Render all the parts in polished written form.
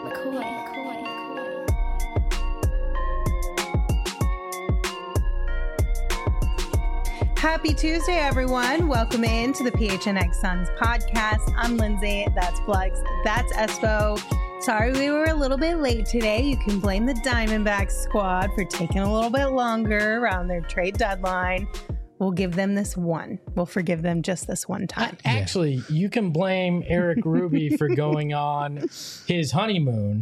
Happy Tuesday, everyone. Welcome in to the PHNX Suns podcast. I'm Lindsay. That's Flex. That's Espo. Sorry we were a little bit late today. You can blame the Diamondbacks squad for taking a little bit longer around their trade deadline. We'll give them this one. We'll forgive them just this one time. Actually, you can blame Eric Ruby for going on his honeymoon.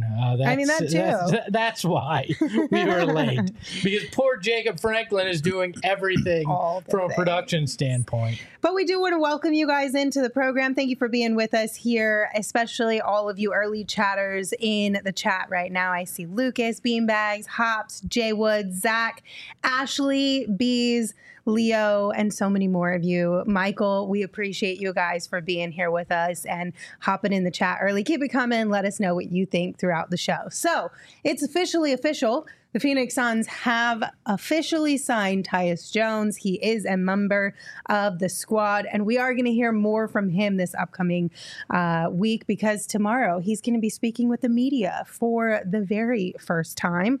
That's why we were late. Because poor Jacob Franklin is doing everything from a production standpoint. But we do want to welcome you guys into the program. Thank you for being with us here, especially all of you early chatters in the chat right now. I see Lucas, Beanbags, Hops, Jay Wood, Zach, Ashley, Bees, Leo, and so many more of you. Michael, we appreciate you guys for being here with us and hopping in the chat early. Keep it coming. Let us know what you think throughout the show. So it's officially official. The Phoenix Suns have officially signed Tyus Jones. He is a member of the squad, and we are going to hear more from him this upcoming week because tomorrow he's going to be speaking with the media for the very first time.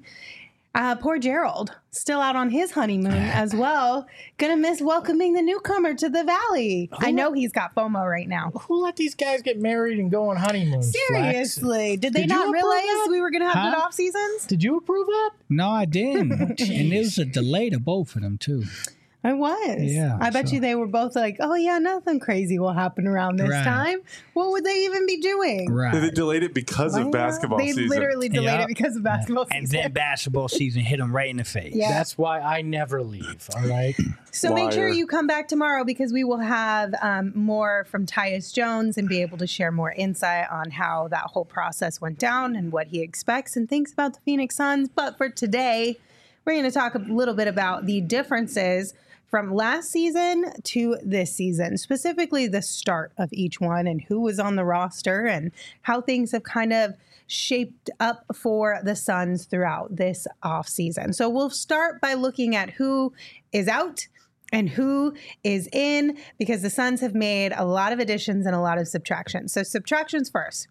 Poor Gerald, still out on his honeymoon as well. Gonna miss welcoming the newcomer to the Valley. I know he's got FOMO right now. Who let these guys get married and go on honeymoons? Seriously, did they not realize we were gonna have good off seasons? Did you approve that? No, I didn't. And there was a delay to both of them too. I was. Yeah. I bet you they were both like, oh, yeah, nothing crazy will happen around this time. What would they even be doing? Right. They delayed it because of basketball season. They literally delayed it because of basketball season. And then basketball season hit them right in the face. Yeah. That's why I never leave, all right? So make sure you come back tomorrow because we will have more from Tyus Jones and be able to share more insight on how that whole process went down and what he expects and thinks about the Phoenix Suns. But for today, we're going to talk a little bit about the differences from last season to this season, specifically the start of each one and who was on the roster and how things have kind of shaped up for the Suns throughout this offseason. So we'll start by looking at who is out and who is in because the Suns have made a lot of additions and a lot of subtractions. So subtractions first.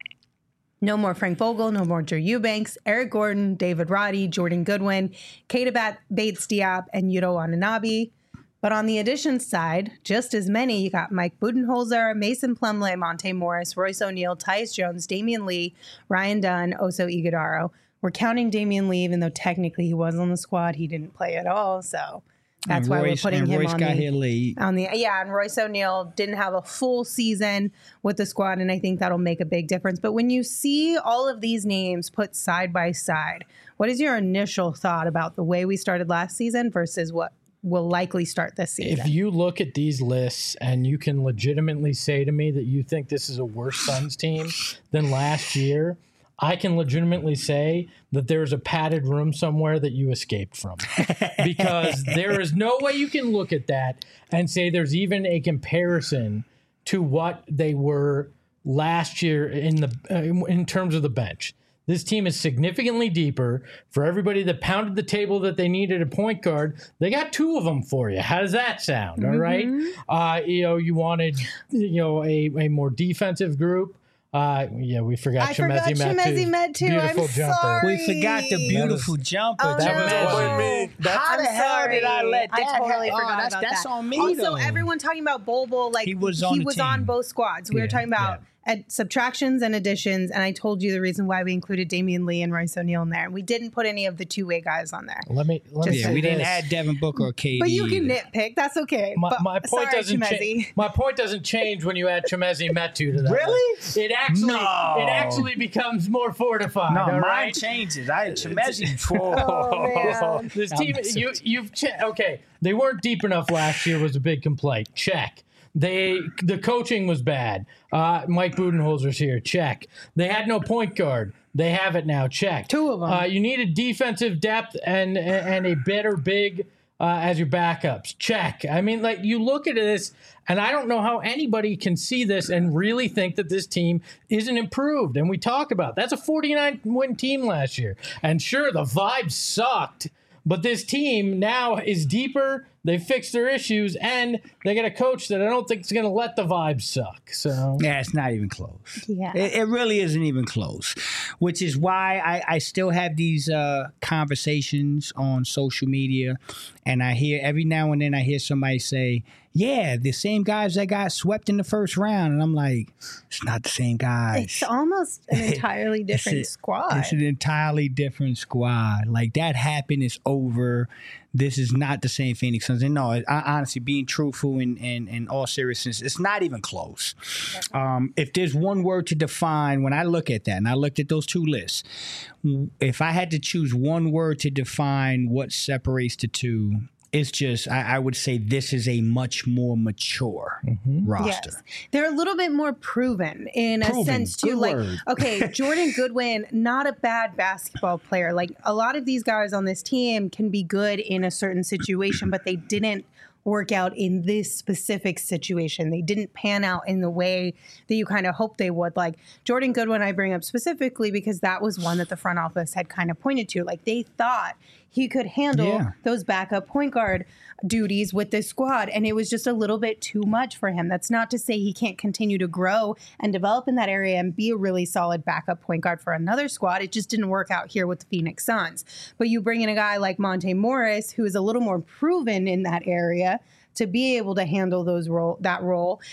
No more Frank Vogel, no more Drew Eubanks, Eric Gordon, David Roddy, Jordan Goodwin, Keita Bates-Diop, and Yuto Watanabe. But on the additions side, just as many. You got Mike Budenholzer, Mason Plumlee, Monte Morris, Royce O'Neal, Tyus Jones, Damian Lee, Ryan Dunn, Oso Ighodaro. We're counting Damian Lee, even though technically he was on the squad. He didn't play at all, so that's why we're putting him Royce on got here late. And Royce O'Neal didn't have a full season with the squad, and I think that'll make a big difference. But when you see all of these names put side by side, what is your initial thought about the way we started last season versus what will likely start this season? If you look at these lists and you can legitimately say to me that you think this is a worse Suns team than last year, I can legitimately say that there's a padded room somewhere that you escaped from. Because there is no way you can look at that and say there's even a comparison to what they were last year in terms of the bench. This team is significantly deeper. For everybody that pounded the table that they needed a point guard, they got two of them for you. How does that sound? All right. You wanted, a more defensive group. We forgot Chemezi Metu. Beautiful jumper. Sorry. We forgot the beautiful jumper. Oh, no. How the hell did I let that I totally forgot about that's that. on me, Also, though. everyone talking about Bol, like he was on both squads. We were talking about subtractions and additions, and I told you the reason why we included Damian Lee and Royce O'Neal in there. And we didn't put any of the two-way guys on there. Let me say we didn't this. add Devin Booker or KD. But you can nitpick. That's okay. My point doesn't change when you add Chemezi Metu to that. Really? List. It actually becomes more fortified. No, all mine right? changes. I had Chemezi. Oh, man. This team, okay. They weren't deep enough last year was a big complaint. Check. The coaching was bad. Mike Budenholzer's here. Check. They had no point guard. They have it now. Check. Two of them. You needed defensive depth and a better big as your backups. Check. I mean, like, you look at this, and I don't know how anybody can see this and really think that this team isn't improved. And we talk about that's a 49-win team last year. And sure, the vibe sucked. But this team now is deeper They fixed their issues, and they get a coach that I don't think is going to let the vibes suck. So yeah, it's not even close. Yeah. It really isn't even close, which is why I still have these conversations on social media, and I hear every now and then I hear somebody say, yeah, the same guys that got swept in the first round. And I'm like, it's not the same guys. It's almost an entirely different squad. It's an entirely different squad. Like, that happened. It's over. This is not the same Phoenix Suns. And no, honestly, being truthful and all seriousness, it's not even close. If there's one word to define, when I look at that, and I looked at those two lists, if I had to choose one word to define what separates the two, it's just, I would say this is a much more mature roster. Yes. They're a little bit more proven in a sense, too. Good Like, word. okay, Jordan Goodwin, not a bad basketball player. Like, a lot of these guys on this team can be good in a certain situation, but they didn't work out in this specific situation. They didn't pan out in the way that you kind of hoped they would. Like, Jordan Goodwin, I bring up specifically because that was one that the front office had kind of pointed to. Like, they thought he could handle those backup point guard duties with this squad, and it was just a little bit too much for him. That's not to say he can't continue to grow and develop in that area and be a really solid backup point guard for another squad. It just didn't work out here with the Phoenix Suns. But you bring in a guy like Monte Morris, who is a little more proven in that area, to be able to handle that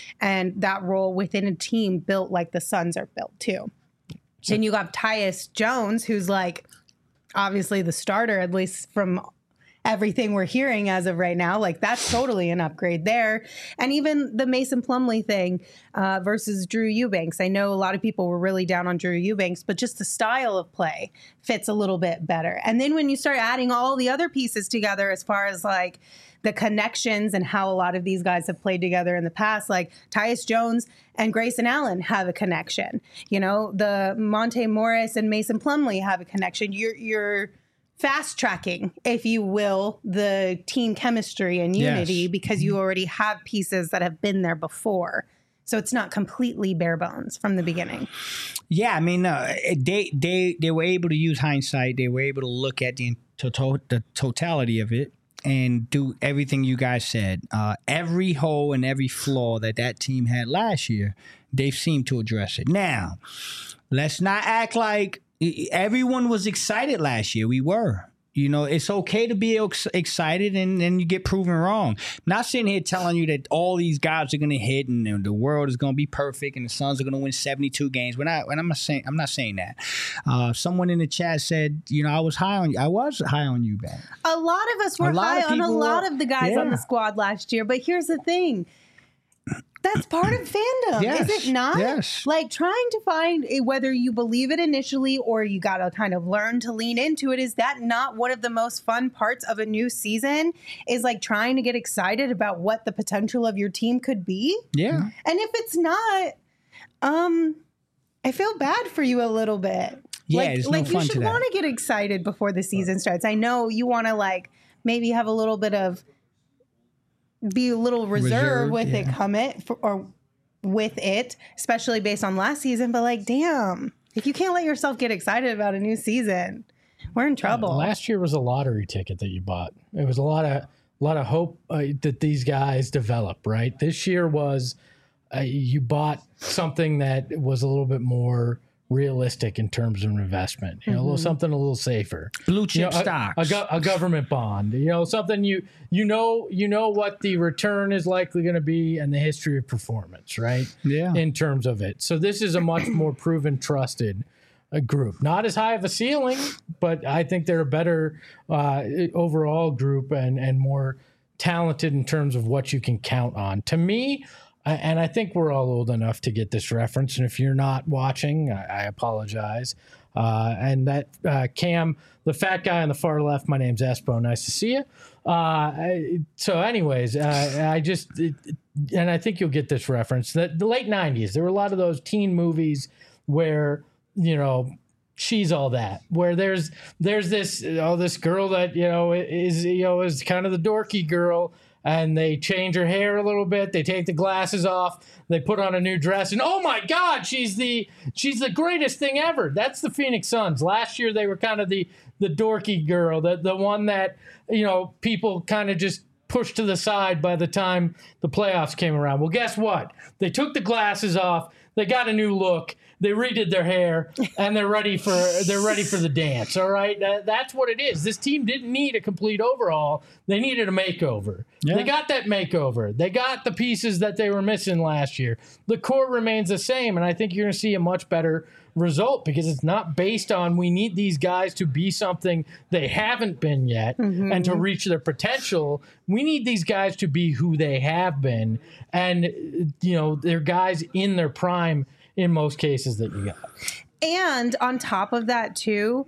role within a team built like the Suns are built too. Then you got Tyus Jones, who's like obviously the starter, at least from everything we're hearing as of right now. Like, that's totally an upgrade there. And even the Mason Plumlee thing versus Drew Eubanks. I know a lot of people were really down on Drew Eubanks, but just the style of play fits a little bit better. And then when you start adding all the other pieces together, as far as like the connections and how a lot of these guys have played together in the past, like Tyus Jones and Grayson Allen have a connection. You know, the Monte Morris and Mason Plumlee have a connection. You're fast tracking, if you will, the team chemistry and unity because you already have pieces that have been there before. So it's not completely bare bones from the beginning. Yeah, I mean, they were able to use hindsight. They were able to look at the totality of it and do everything you guys said. Every hole and every flaw that team had last year, they've seemed to address it. Now, let's not act like everyone was excited last year. We were. You know, it's okay to be excited and then you get proven wrong. I'm not sitting here telling you that all these guys are going to hit and the world is going to be perfect and the Suns are going to win 72 games. I'm not saying that. Someone in the chat said, you know, I was high on you, Ben. A lot of us were high on a lot of the guys on the squad last year. But here's the thing. That's part of fandom, is it not? Yes. Like, trying to find whether you believe it initially or you got to kind of learn to lean into it. Is that not one of the most fun parts of a new season? Is like trying to get excited about what the potential of your team could be? Yeah. And if it's not, I feel bad for you a little bit. Yeah, it's no fun you should want to get excited before the season starts. I know you want to like maybe have a little bit of be a little reserved with it, especially based on last season. But like, damn, if you can't let yourself get excited about a new season, we're in trouble. Last year was a lottery ticket that you bought. It was a lot of hope that these guys develop. Right, this year was you bought something that was a little bit more realistic in terms of investment, you know, something a little safer, blue chip stocks, a government bond, you know, something you know what the return is likely going to be and the history of performance, right? Yeah, in terms of it. So this is a much more proven, trusted group. Not as high of a ceiling, but I think they're a better overall group and more talented in terms of what you can count on. To me. And I think we're all old enough to get this reference. And if you're not watching, I apologize. And that Cam, the fat guy on the far left, my name's Espo. Nice to see you. So anyways, I think you'll get this reference. The late 90s, there were a lot of those teen movies where, you know, she's all that, where there's this girl that, is kind of the dorky girl. And they change her hair a little bit. They take the glasses off. They put on a new dress. And, oh, my God, she's the greatest thing ever. That's the Phoenix Suns. Last year, they were kind of the dorky girl, the one that, you know, people kind of just pushed to the side by the time the playoffs came around. Well, guess what? They took the glasses off. They got a new look. They redid their hair, and they're ready for the dance. All right, that's what it is. This team didn't need a complete overhaul. They needed a makeover. Yeah. They got that makeover. They got the pieces that they were missing last year. The core remains the same, and I think you're going to see a much better result because it's not based on we need these guys to be something they haven't been yet and to reach their potential. We need these guys to be who they have been, and they're guys in their prime in most cases that you got. And on top of that too,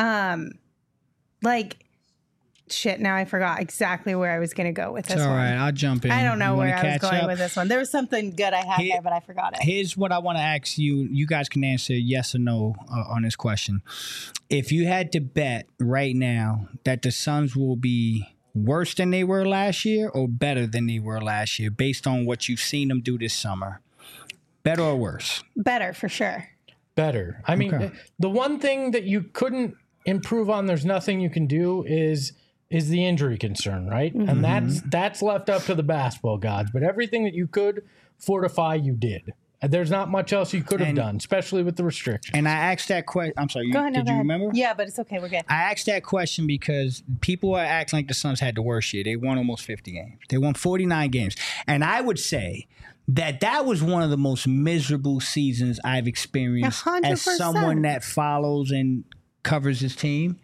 now I forgot exactly where I was going to go with this one. All right, I'll jump in. I don't know where I was going with this one. There was something good I had there, but I forgot it. Here's what I want to ask you. You guys can answer yes or no on this question. If you had to bet right now that the Suns will be worse than they were last year or better than they were last year based on what you've seen them do this summer, better or worse? Better, for sure. Better. I mean, the one thing that you couldn't improve on, there's nothing you can do, is the injury concern, right? And that's left up to the basketball gods. But everything that you could fortify, you did. And there's not much else you could have done, especially with the restrictions. And I asked that question. I'm sorry. Go ahead, did you remember? Yeah, but it's okay. We're good. I asked that question because people are acting like the Suns had the worst year. They won almost 50 games. They won 49 games. And I would say that was one of the most miserable seasons I've experienced 100%. As someone that follows and covers his team.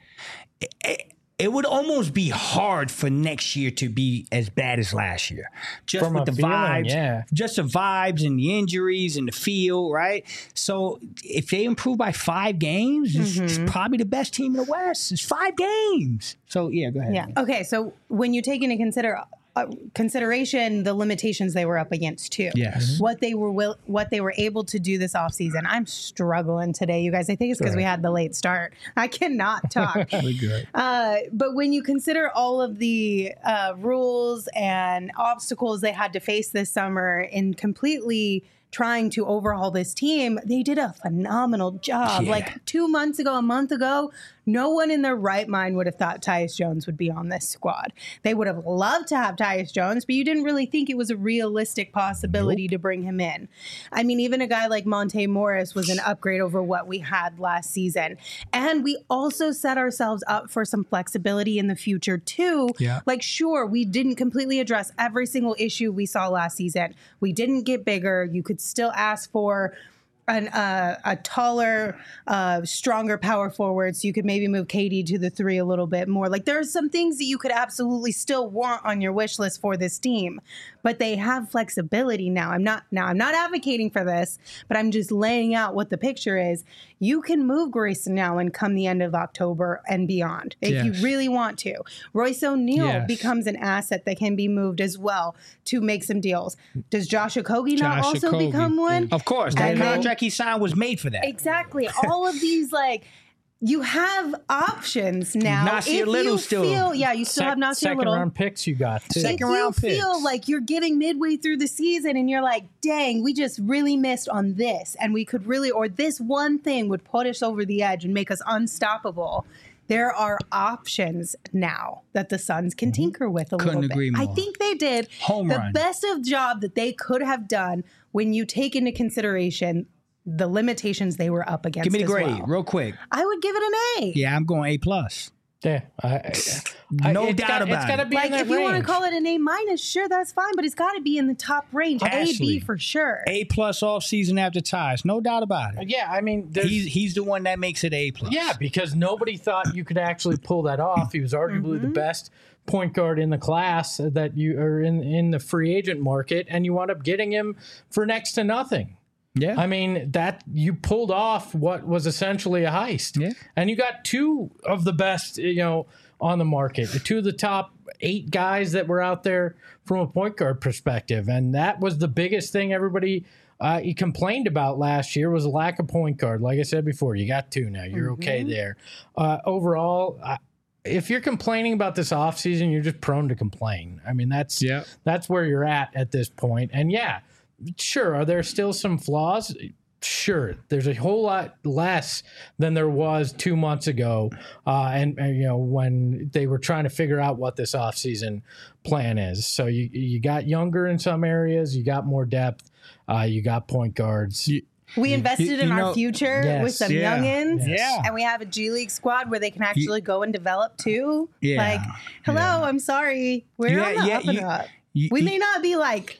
It would almost be hard for next year to be as bad as last year. Just From with the feeling, vibes, just the vibes and the injuries and the feel, right? So if they improve by 5 games, it's probably the best team in the West. It's 5 games. So, yeah, go ahead. Yeah. Okay, so when you take into consideration the limitations they were up against too. Yes. What they were able to do this offseason. I'm struggling today, you guys. I think it's because we had the late start. I cannot talk. We're good. But when you consider all of the rules and obstacles they had to face this summer in completely trying to overhaul this team, they did a phenomenal job. Yeah. Like 2 months ago, a month ago, no one in their right mind would have thought Tyus Jones would be on this squad. They would have loved to have Tyus Jones, but you didn't really think it was a realistic possibility to bring him in. I mean, even a guy like Monte Morris was an upgrade over what we had last season. And we also set ourselves up for some flexibility in the future too. Yeah. Like, sure, we didn't completely address every single issue we saw last season. We didn't get bigger. You could still ask for a taller, stronger power forward, so you could maybe move KD to the 3 a little bit more. Like, there are some things that you could absolutely still want on your wish list for this team, but they have flexibility now. I'm not advocating for this, but I'm just laying out what the picture is. You can move Grayson Allen come the end of October and beyond if you really want to. Royce O'Neal becomes an asset that can be moved as well to make some deals. Does Josh Okogie not also become one? Of course. That contract he signed was made for that. Exactly. All of these, like, you have options now. Nasir Little still. You still have Nasir Little. Second round picks you got, too. Second round picks. If you feel like you're getting midway through the season and you're like, dang, we just really missed on this, and we could really, or this one thing would put us over the edge and make us unstoppable. There are options now that the Suns can tinker with a little bit. Couldn't agree more. I think they did the best of job that they could have done when you take into consideration the limitations they were up against. Give me the grade, well. real quick. I would give it an A. Yeah, I'm going A+. Yeah, no doubt about it. It's got to be Like, in that if you want to range. call it an A-, sure, that's fine, but it's got to be in the top range. Ashley, A, B for sure. A+ off season after ties, no doubt about it. Yeah, I mean, He's the one that makes it A+. Yeah, because nobody thought you could actually pull that off. He was arguably the best point guard in the class that you are in the free agent market, and you wound up getting him for next to nothing. Yeah. I mean, that you pulled off what was essentially a heist. Yeah. And you got 2 of the best, on the market, 2 of the top 8 guys that were out there from a point guard perspective. And that was the biggest thing everybody he complained about last year was a lack of point guard. Like I said before, you got 2 now. You're okay there. Overall, if you're complaining about this offseason, you're just prone to complain. I mean, that's where you're at this point. And yeah, sure, are there still some flaws? Sure, there's a whole lot less than there was 2 months ago, and when they were trying to figure out what this offseason plan is. So you got younger in some areas, you got more depth, you got point guards. We invested in our future with some youngins. Yeah. And we have a G League squad where they can actually go and develop too. Yeah. Like, hello, I'm sorry. We're on the up and up. We may not be like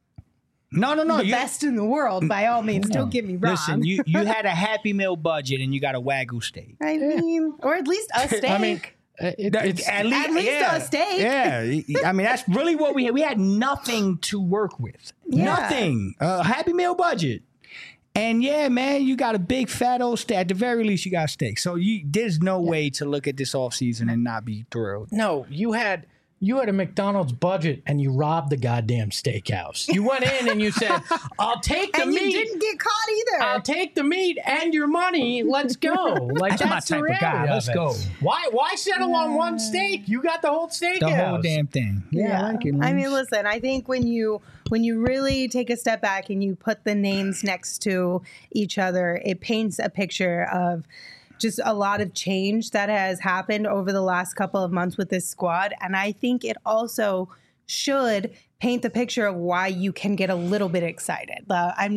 No. the best in the world by all means. Don't get me wrong. Listen, you had a Happy Meal budget and you got a Wagyu steak. I mean, or at least a steak. I mean, it's at least a steak. Yeah, I mean that's really what we had. We had nothing to work with. Yeah. Nothing. Happy Meal budget. And yeah, man, you got a big fat old steak. At the very least, you got a steak. So there's no way to look at this offseason and not be thrilled. No, you had a McDonald's budget and you robbed the goddamn steakhouse. You went in and you said, I'll take the and meat. you didn't get caught either. I'll take the meat and your money. Let's go. Like That's my the type of guy. reality Let's it. go. Why settle on one steak? You got the whole steakhouse. The whole damn thing. Yeah, I like it. I mean, listen, I think when you really take a step back and you put the names next to each other, it paints a picture of just a lot of change that has happened over the last couple of months with this squad. And I think it also should paint the picture of why you can get a little bit excited. I'm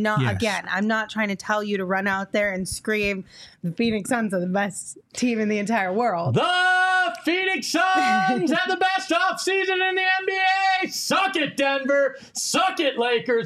not trying to tell you to run out there and scream the Phoenix Suns are the best team in the entire world. The Phoenix Suns have the best offseason in the NBA. Suck it, Denver. Suck it, Lakers.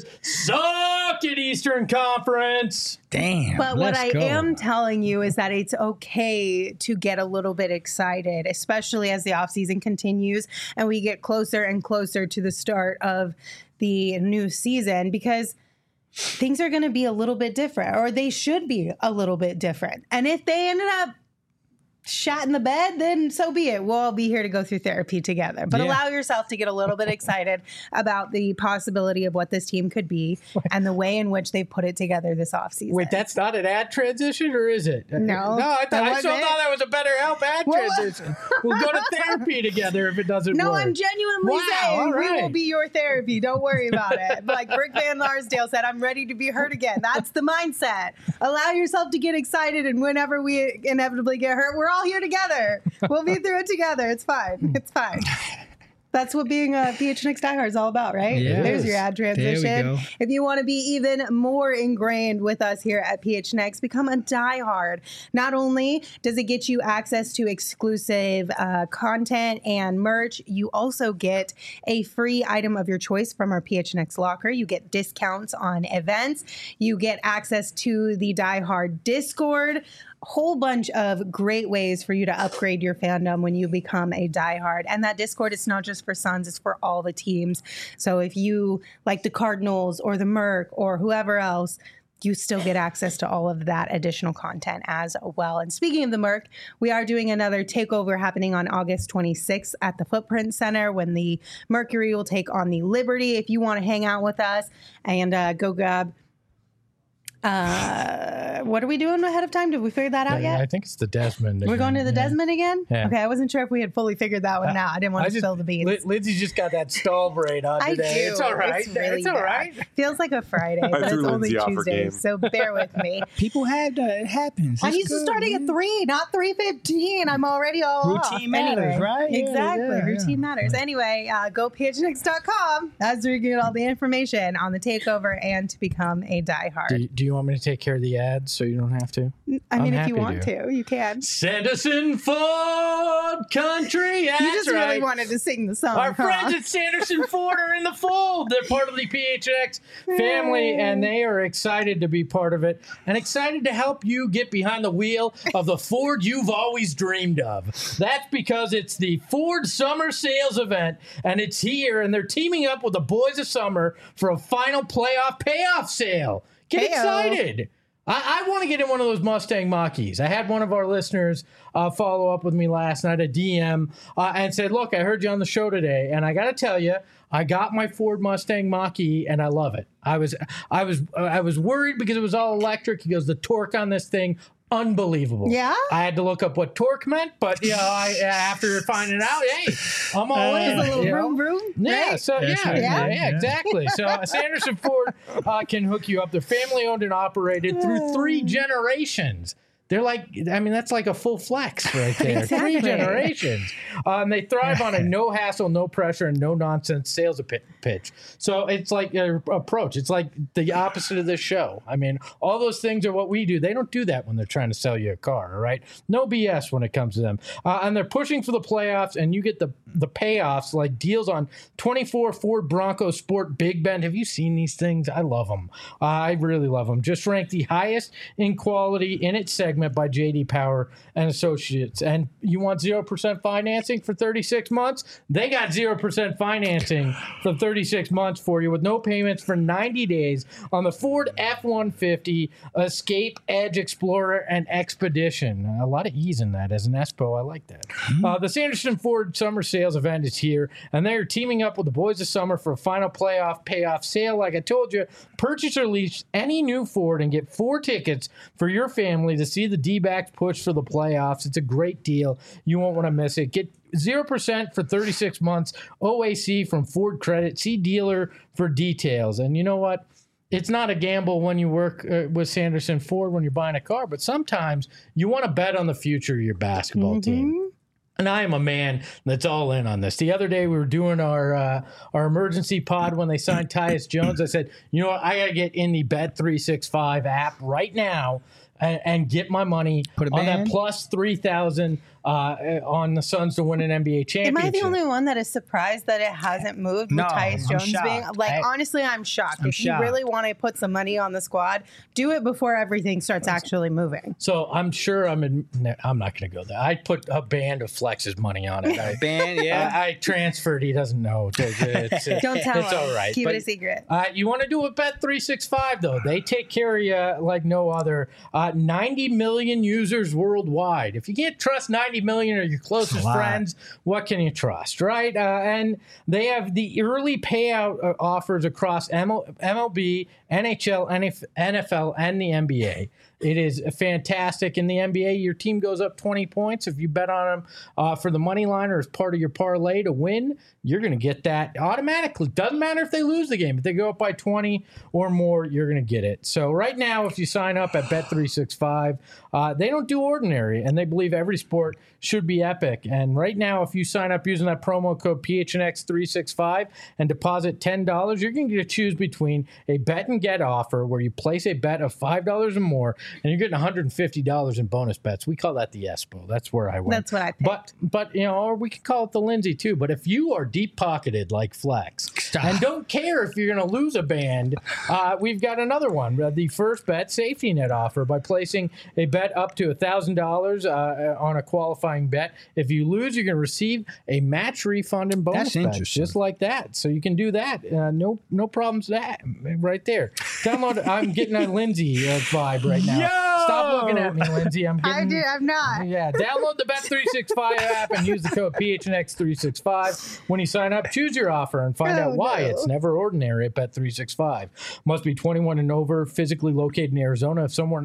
Suck it, Eastern Conference. Damn. But what I am telling you is that it's okay to get a little bit excited, especially as the offseason continues and we get closer and closer to the start of the new season, because things are going to be a little bit different, or they should be a little bit different. And if they ended up shat in the bed, then so be it. We'll all be here to go through therapy together. But allow yourself to get a little bit excited about the possibility of what this team could be and the way in which they put it together this offseason. Wait, that's not an ad transition, or is it? No. I still thought that was a better help ad transition. We'll go to therapy together if it doesn't work. No, I'm genuinely saying we will be your therapy. Don't worry about it. Like Rick Van Larsdale said, I'm ready to be hurt again. That's the mindset. Allow yourself to get excited, and whenever we inevitably get hurt, we're all here together. We'll be through it together. It's fine. It's fine. That's what being a PHNX diehard is all about, right? Yes. There's your ad transition. There we go. If you want to be even more ingrained with us here at PHNX, become a diehard. Not only does it get you access to exclusive content and merch, you also get a free item of your choice from our PHNX locker. You get discounts on events. You get access to the diehard Discord. Whole bunch of great ways for you to upgrade your fandom when you become a diehard. And that Discord is not just for Suns, it's for all the teams. So if you like the Cardinals or the Merc or whoever else, you still get access to all of that additional content as well. And speaking of the Merc, we are doing another takeover happening on August 26th at the Footprint Center, when the Mercury will take on the Liberty. If you want to hang out with us and go grab what are we doing ahead of time? Did we figure that out yet? I think it's the Desmond. We're going to the Desmond again? Yeah. Okay, I wasn't sure if we had fully figured that one out. I didn't want to spill the beans. Lindsay just got that stall braid on I today. do. It's all right. It's all right. Feels like a Friday, but it's threw only Lindsay off her Tuesday, game. so bear with me. People have that. It happens. I'm It's used to good, starting man. at 3, not 3:15. I'm already all Routine off. matters, Anyway, right? Yeah, Exactly. yeah, Routine yeah. matters. Anyway, go phnx.com. That's where you get all the information on the takeover and to become a diehard. Do you want me to take care of the ads so you don't have to? I mean, I'm if you happy want to, you can. Sanderson Ford Country. That's You just right. really wanted to sing the song. Our friends at Sanderson Ford are in the fold. They're part of the PHX family, and they are excited to be part of it and excited to help you get behind the wheel of the Ford you've always dreamed of. That's because it's the Ford Summer Sales Event, and it's here, and they're teaming up with the Boys of Summer for a final playoff payoff sale. Get Heyo. excited. I want to get in one of those Mustang Mach-E's. I had one of our listeners follow up with me last night, a DM, and said, look, I heard you on the show today, and I got to tell you, I got my Ford Mustang Mach-E, and I love it. I was worried because it was all electric. He goes, the torque on this thing, unbelievable. Yeah? I had to look up what torque meant, but after finding out, hey, I'm all in. A little you know? room, room. Yeah, right? so That's right. yeah, exactly. So Sanderson Ford can hook you up. They're family owned and operated through 3 generations. They're like, I mean, that's like a full flex right there. Exactly. 3 generations. They thrive on a no hassle, no pressure, and no nonsense sales pitch. So it's like their approach. It's like the opposite of this show. I mean, all those things are what we do. They don't do that when they're trying to sell you a car, all right? No BS when it comes to them. And they're pushing for the playoffs, and you get the payoffs like deals on 24 Ford Bronco Sport Big Bend. Have you seen these things? I love them. I really love them. Just ranked the highest in quality in its segment by JD Power and Associates. And you want 0% financing for 36 months? They got 0% financing for 36 months for you with no payments for 90 days on the Ford F-150, Escape, Edge, Explorer, and Expedition. A lot of ease in that as an Espo. I like that. The Sanderson Ford Summer Sales event is here, and they're teaming up with the Boys of Summer for a final playoff payoff sale. Like I told you, purchase or lease any new Ford and get 4 tickets for your family to see the D-backs push for the playoffs. It's a great deal. You won't want to miss it. Get 0% for 36 months OAC from Ford Credit. See dealer for details. And you know what? It's not a gamble when you work with Sanderson Ford when you're buying a car, but sometimes you want to bet on the future of your basketball team. And I am a man that's all in on this. The other day we were doing our emergency pod when they signed Tyus Jones. I said, you know what? I got to get in the Bet365 app right now and get my money on that plus 3,000 on the Suns to win an NBA championship. Am I the only one that is surprised that it hasn't moved with Tyus Jones being like? Honestly, I'm shocked. If you really want to put some money on the squad, do it before everything starts actually moving. So I'm sure I'm not going to go there. I put a band of Flex's money on it. I transferred. He doesn't know. Don't tell him. It's all right. Keep it a secret. You want to do a Bet365 though? They take care of you like no other. 90 million users worldwide. If you can't trust 90 million or your closest friends, what can you trust, right? And they have the early payout offers across MLB, NHL, NFL, and the NBA. It is fantastic. In the NBA, your team goes up 20 points. If you bet on them for the money line or as part of your parlay to win, you're going to get that automatically. Doesn't matter if they lose the game. If they go up by 20 or more, you're going to get it. So right now, if you sign up at Bet365, they don't do ordinary, and they believe every sport should be epic. And right now, if you sign up using that promo code PHNX365 and deposit $10, you're going to get to choose between a bet and get offer where you place a bet of $5 or more, and you're getting $150 in bonus bets. We call that the Espo. That's where I went. That's what I picked. But you know, or we could call it the Lindsay too. But if you are deep-pocketed like Flex and don't care if you're going to lose a band, we've got another one. The First Bet safety net offer by placing a bet up to $1,000 on a qualifying bet. If you lose, you're going to receive a match refund and bonus bets, just like that. So you can do that. No problems with that right there. Download. I'm getting a Lindsay vibe right now. Yo! Stop looking at me, Lindsay. I'm not. Yeah, download the Bet365 app and use the code PHNX365. When you sign up, choose your offer and find out why it's never ordinary at Bet365. Must be 21 and over, physically located in Arizona.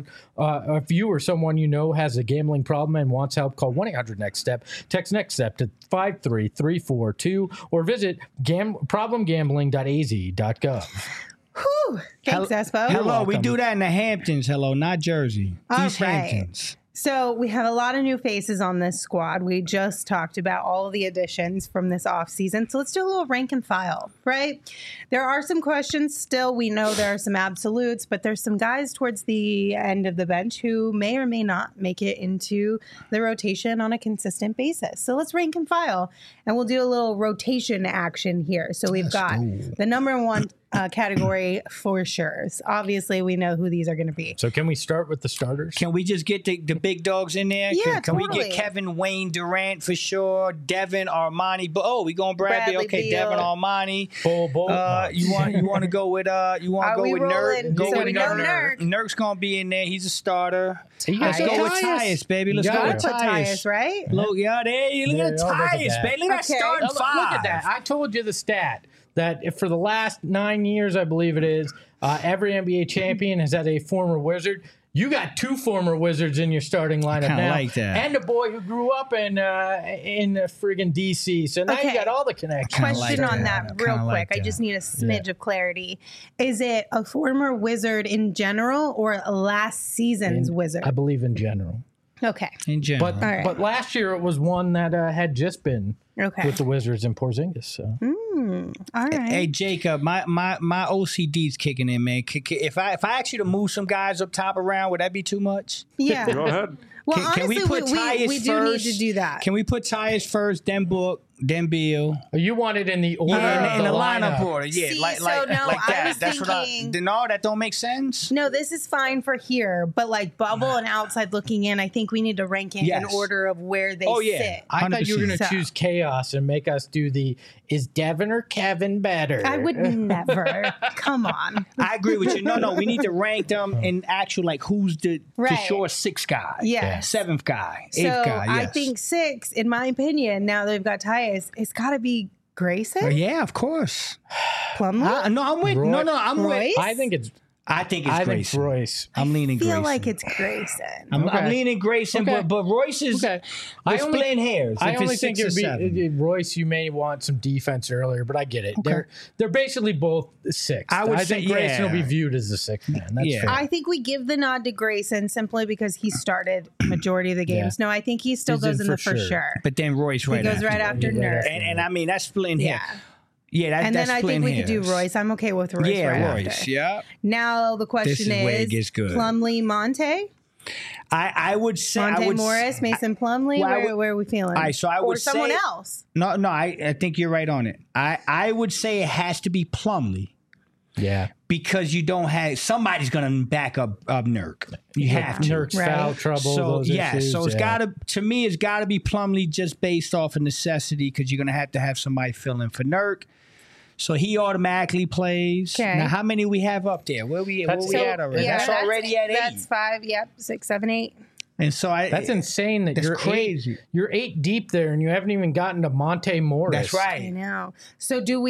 If you or someone you know has a gambling problem and wants help, call 1-800-NEXT-STEP. Text NEXT STEP to 53342 or visit problemgambling.az.gov. Whew. Thanks, Espo. Hello, we do that in the Hamptons. Hello, not Jersey. East Hamptons. So we have a lot of new faces on this squad. We just talked about all of the additions from this offseason. So let's do a little rank and file, right? There are some questions still. We know there are some absolutes, but there's some guys towards the end of the bench who may or may not make it into the rotation on a consistent basis. So let's rank and file, and we'll do a little rotation action here. So we've got the number one category for sure. Obviously, we know who these are going to be. So can we start with the starters? Can we just get the big dogs in there? Yeah, Can we get Kevin Wayne Durant for sure? Devin Armani. We going Bradley. Okay, Beal. Devin Armani. Bull. You want to go with Nurk? Go with Nurk. Nurk's gonna be in there. He's a starter. Let's go with Tyus, baby. Let's go with Tyus, right? Look, there you look at Tyus, baby. Look at that starting five. Look at that. I told you the stat that for the last 9 years, I believe it is, every NBA champion has had a former Wizard. you got 2 former Wizards in your starting lineup Kinda now, like that. and a boy who grew up in friggin' DC. So now you Okay. got all the connections. Kinda Question like on that. that Kinda real quick. like I that. just need a smidge of clarity. Is it a former Wizard in general or last season's Wizard? I believe in general, Okay. In general. but right. but last year it was one that had just been Okay. with the Wizards and Porzingis. So All right. Hey Jacob, my OCD's kicking in, man. If I ask you to move some guys up top around, would that be too much? Yeah. Go ahead. Well, Can honestly, we put Tyus we do first? need to do that. Can we put Tyus first, then Book, then Beal? you want it in the order Yeah, of in the the lineup lineup. order. Yeah, See, like so no, that. I was That's thinking- what no, that don't make sense. No, this is fine for here, but like bubble and outside looking in, I think we need to rank it in Yes. order of where they Oh, yeah. sit. I thought you were going to 100%. choose chaos and make us do the is Devin or Kevin better? I would never. Come on. I agree with you. No, we need to rank them in actual like who's the Right. sure 6th guy, Yes. 7th guy, 8th So guy. I Yes. think 6, in my opinion, now that we've got Tyus, it's got to be Grayson, Yeah, of course. Plumlee. No, I'm with. Roy- No, I'm Royce? with. I think it's I think it's I think Grayson. Royce. I'm leaning I feel Grayson. like it's Grayson. I'm Okay. leaning Grayson, Okay. but Royce is. Okay. We're I only- splitting hairs. I if only it's think 6 it or would 7. be Royce. You may want some defense earlier, but I get it. They're basically both 6. I would say, think Grayson will be yeah. viewed as the 6th man. That's Yeah. fair. I think we give the nod to Grayson simply because he started majority of the games. No, I think he still He's goes in in the for for sure. sure. But then Royce He right goes after. right after Yeah, Nurse. And I mean that's splitting Yeah. hair. Yeah, And that's then I think splitting we could do hairs. Royce. I'm okay with Royce Yeah, right Royce. after. Yeah. Now the question is where it gets good. Plumlee, Monte, I would say I Monte would Morris, Mason Plumlee. well, I where, would- where are we feeling? All right, so I or would someone say- else. No, I think you're right on it. I would say it has to be Plumlee. yeah. Because you don't have somebody's going to back up Nurk. You have to. Nurk's Right. foul trouble. So those yeah, issues, so it's yeah. gotta to me it's gotta be Plumlee just based off of necessity because you're gonna have somebody fill in for Nurk. So he automatically plays. Okay. Now how many we have up there? Where we at already? yeah, that's already at 8. That's 5. Yep, 6, 7, 8. And so That's insane that That's you're crazy. You're 8 deep there, and you haven't even gotten to Monte Morris. That's I right. know. So do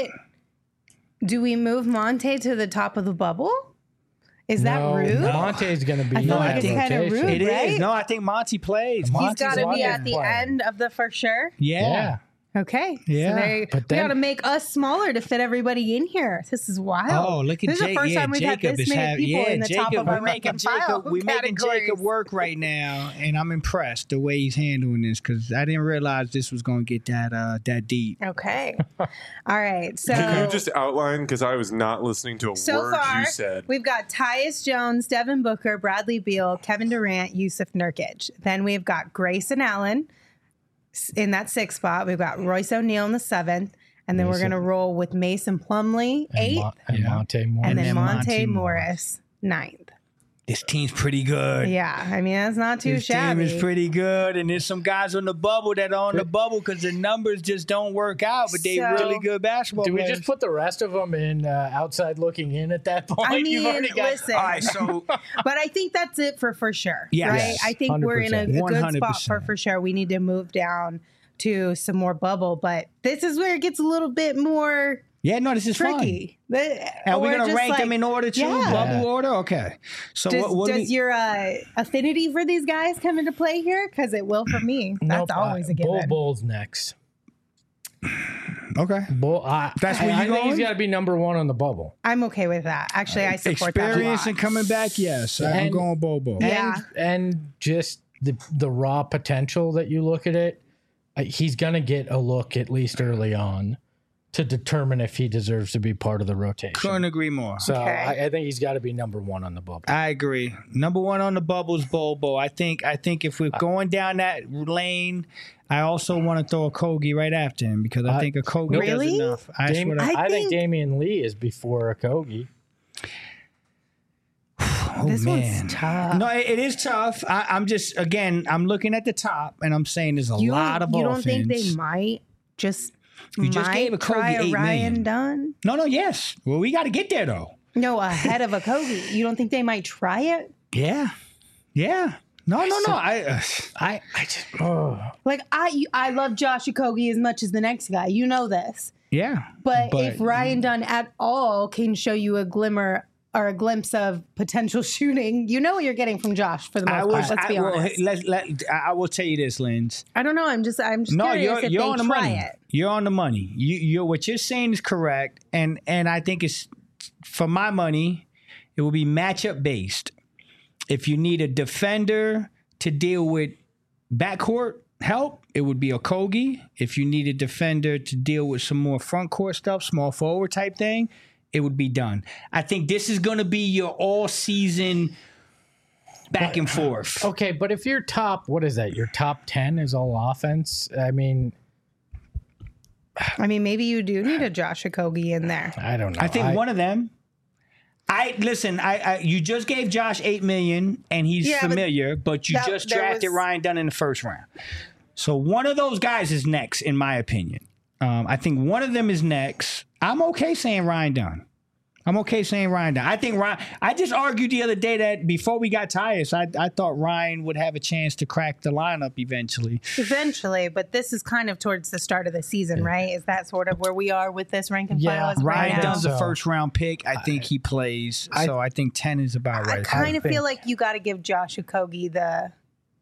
we move Monte to the top of the bubble? Is that No, rude? Monte's going to be I feel in like that it's kinda rotation. rude. It is. right? No, I think Monty plays. He's Monty's got to be always at the playing. end of the for sure. Yeah. Okay. Yeah. So But we then- got to make us smaller to fit everybody in here. This is wild. Oh, look at This is the Jake. first Yeah, time we've had Jacob this is many having. people Yeah, in the top Jacob. of our We're making rank and file Jacob. We're making categories. Jacob work right now, and I'm impressed the way he's handling this because I didn't realize this was going to get that deep. Okay. All right. So Can you just outline? Because I was not listening to a so word far, you said. we've got Tyus Jones, Devin Booker, Bradley Beal, Kevin Durant, Yusuf Nurkic. Then we've got Grayson Allen in that 6th spot. We've got Royce O'Neal in the 7th. And then we're going to roll with Mason Plumlee, 8th. And Monte Morris. And then then Monte Monte Morris, 9th. This team's pretty good. Yeah. I mean, that's not too This shabby. team is pretty good, and there's some guys on the bubble that are on the bubble because the numbers just don't work out, but they So- really good basketball Do we players. just put the rest of them in outside looking in at that point? I You've mean, already got listen. All right, so But I think that's it for sure. Yes. Right? Yes, I think we're in a 100%. good spot 100%. for sure. We need to move down to some more bubble, but this is where it gets a little bit more yeah, no, this is tricky. Are we going to rank them in order too? Yeah. Bubble order? Okay. So Does, what do does we, your affinity for these guys come into play here? Because it will for me. That's Nope, always a given. Bull's next. okay. Bull, That's where I you think he's going? got to be number 1 on the bubble. I'm okay with that. Actually, I support that a Experience lot. and coming back, yes. I'm And- going Bobo. Yeah. And just the raw potential that you look at it, he's going to get a look at least early on to determine if he deserves to be part of the rotation. Couldn't agree more. So Okay. I think he's got to be number 1 on the bubble. I agree. Number 1 on the bubble is Bobo. I think if we're going down that lane, I also want to throw a Kogi right after him because I think a Kogi Really? does enough. That's Dame- what I think think- Damian Lee is before a Kogi. Oh, This man. one's tough. No, it is tough. I'm just I'm looking at the top and I'm saying there's a You lot of don't offense. think they might just You just gave a Kogi try a $8 Ryan million. Dunn? No, yes. Well, we got to get there though. No, ahead of a Kogi. You don't think they might try it? Yeah, yeah. No. I just oh. Like I love Josh Okogie as much as the next guy. You know this. yeah. But if Ryan Dunn at all can show you a glimmer or a glimpse of potential shooting, you know what you're getting from Josh for the most part. Let's be honest. I will tell you this, Linz. I don't know. I'm just No, curious if you're they on the try money. it. You're on the money. You're what you're saying is correct, and I think it's for my money, it will be matchup based. If you need a defender to deal with backcourt help, it would be Okogie. If you need a defender to deal with some more front court stuff, small forward type thing, it would be done. I think this is going to be your all season back and forth. Okay, but if your top, what is that? Your top 10 is all offense. I mean, maybe you do need a Josh Okogie in there. I don't know. I think one of them. You just gave Josh $8 million, and he's familiar, but you just drafted Ryan Dunn in the first round. So one of those guys is next, in my opinion. I think one of them is next. I'm okay saying Ryan Dunn. I think Ryan. I just argued the other day that before we got Tyus, I thought Ryan would have a chance to crack the lineup eventually. Eventually, but this is kind of towards the start of the season, right? Is that sort of where we are with this rank and file? Ryan Dunn's so. a first round pick. I think he plays. So I think 10 is about right. I kind of feel like you got to give Josh Okogie the.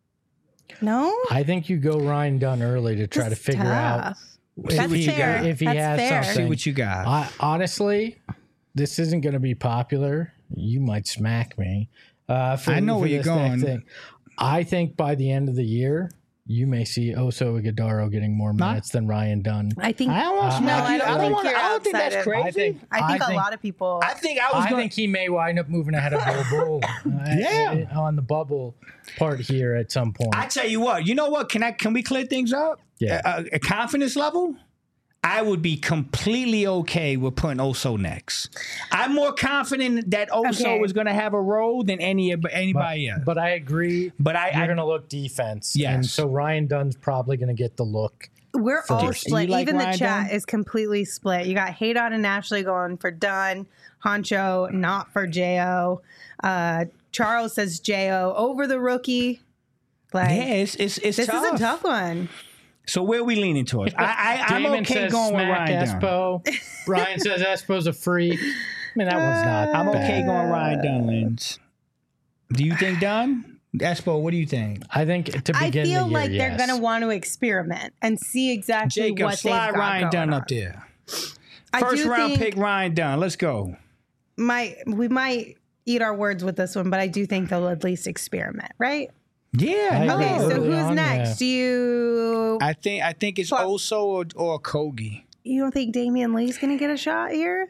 No, I think you go Ryan Dunn early to try to figure out if he has something. See what you got. Honestly, this isn't going to be popular. You might smack me. I know where you're going. Thing. I think by the end of the year, you may see Oso Ighodaro getting more minutes than Ryan Dunn. I think. I don't think that's crazy. I think a lot of people. I think he may wind up moving ahead of Bol Bol. On the bubble part here at some point. I tell you what. You know what? Can we clear things up? Yeah. A confidence level. I would be completely okay with putting Oso next. I'm more confident that Oso is going to have a role than anybody else. But I agree. But you're going to look defense. Yes. And so Ryan Dunn's probably going to get the look. We're all first. split. Like Even Ryan the chat Dunn? is completely split. You got Haydon and Ashley going for Dunn. Honcho, not for J.O. Charles says J.O. over the rookie. Like, it's this tough. is a tough one. So where are we leaning towards? I'm Damon okay says going with smack Ryan Dunn. Espo. Brian says Espo's a freak. I mean, that one's not. I'm bad. okay going Ryan Dunn, Linz. Do you think Dunn? Espo, what do you think? I think to begin I feel the year, like they're yes. going to want to experiment and see exactly Jacob, what they've slide got Ryan going Dunn on. up there. I First do round think pick Ryan Dunn. Let's go. we might eat our words with this one, but I do think they'll at least experiment, right? Yeah. I agree. Okay, so Early who's on, next? yeah. Do you I think it's Oso or Kogi. you don't think Damian Lee's going to get a shot here?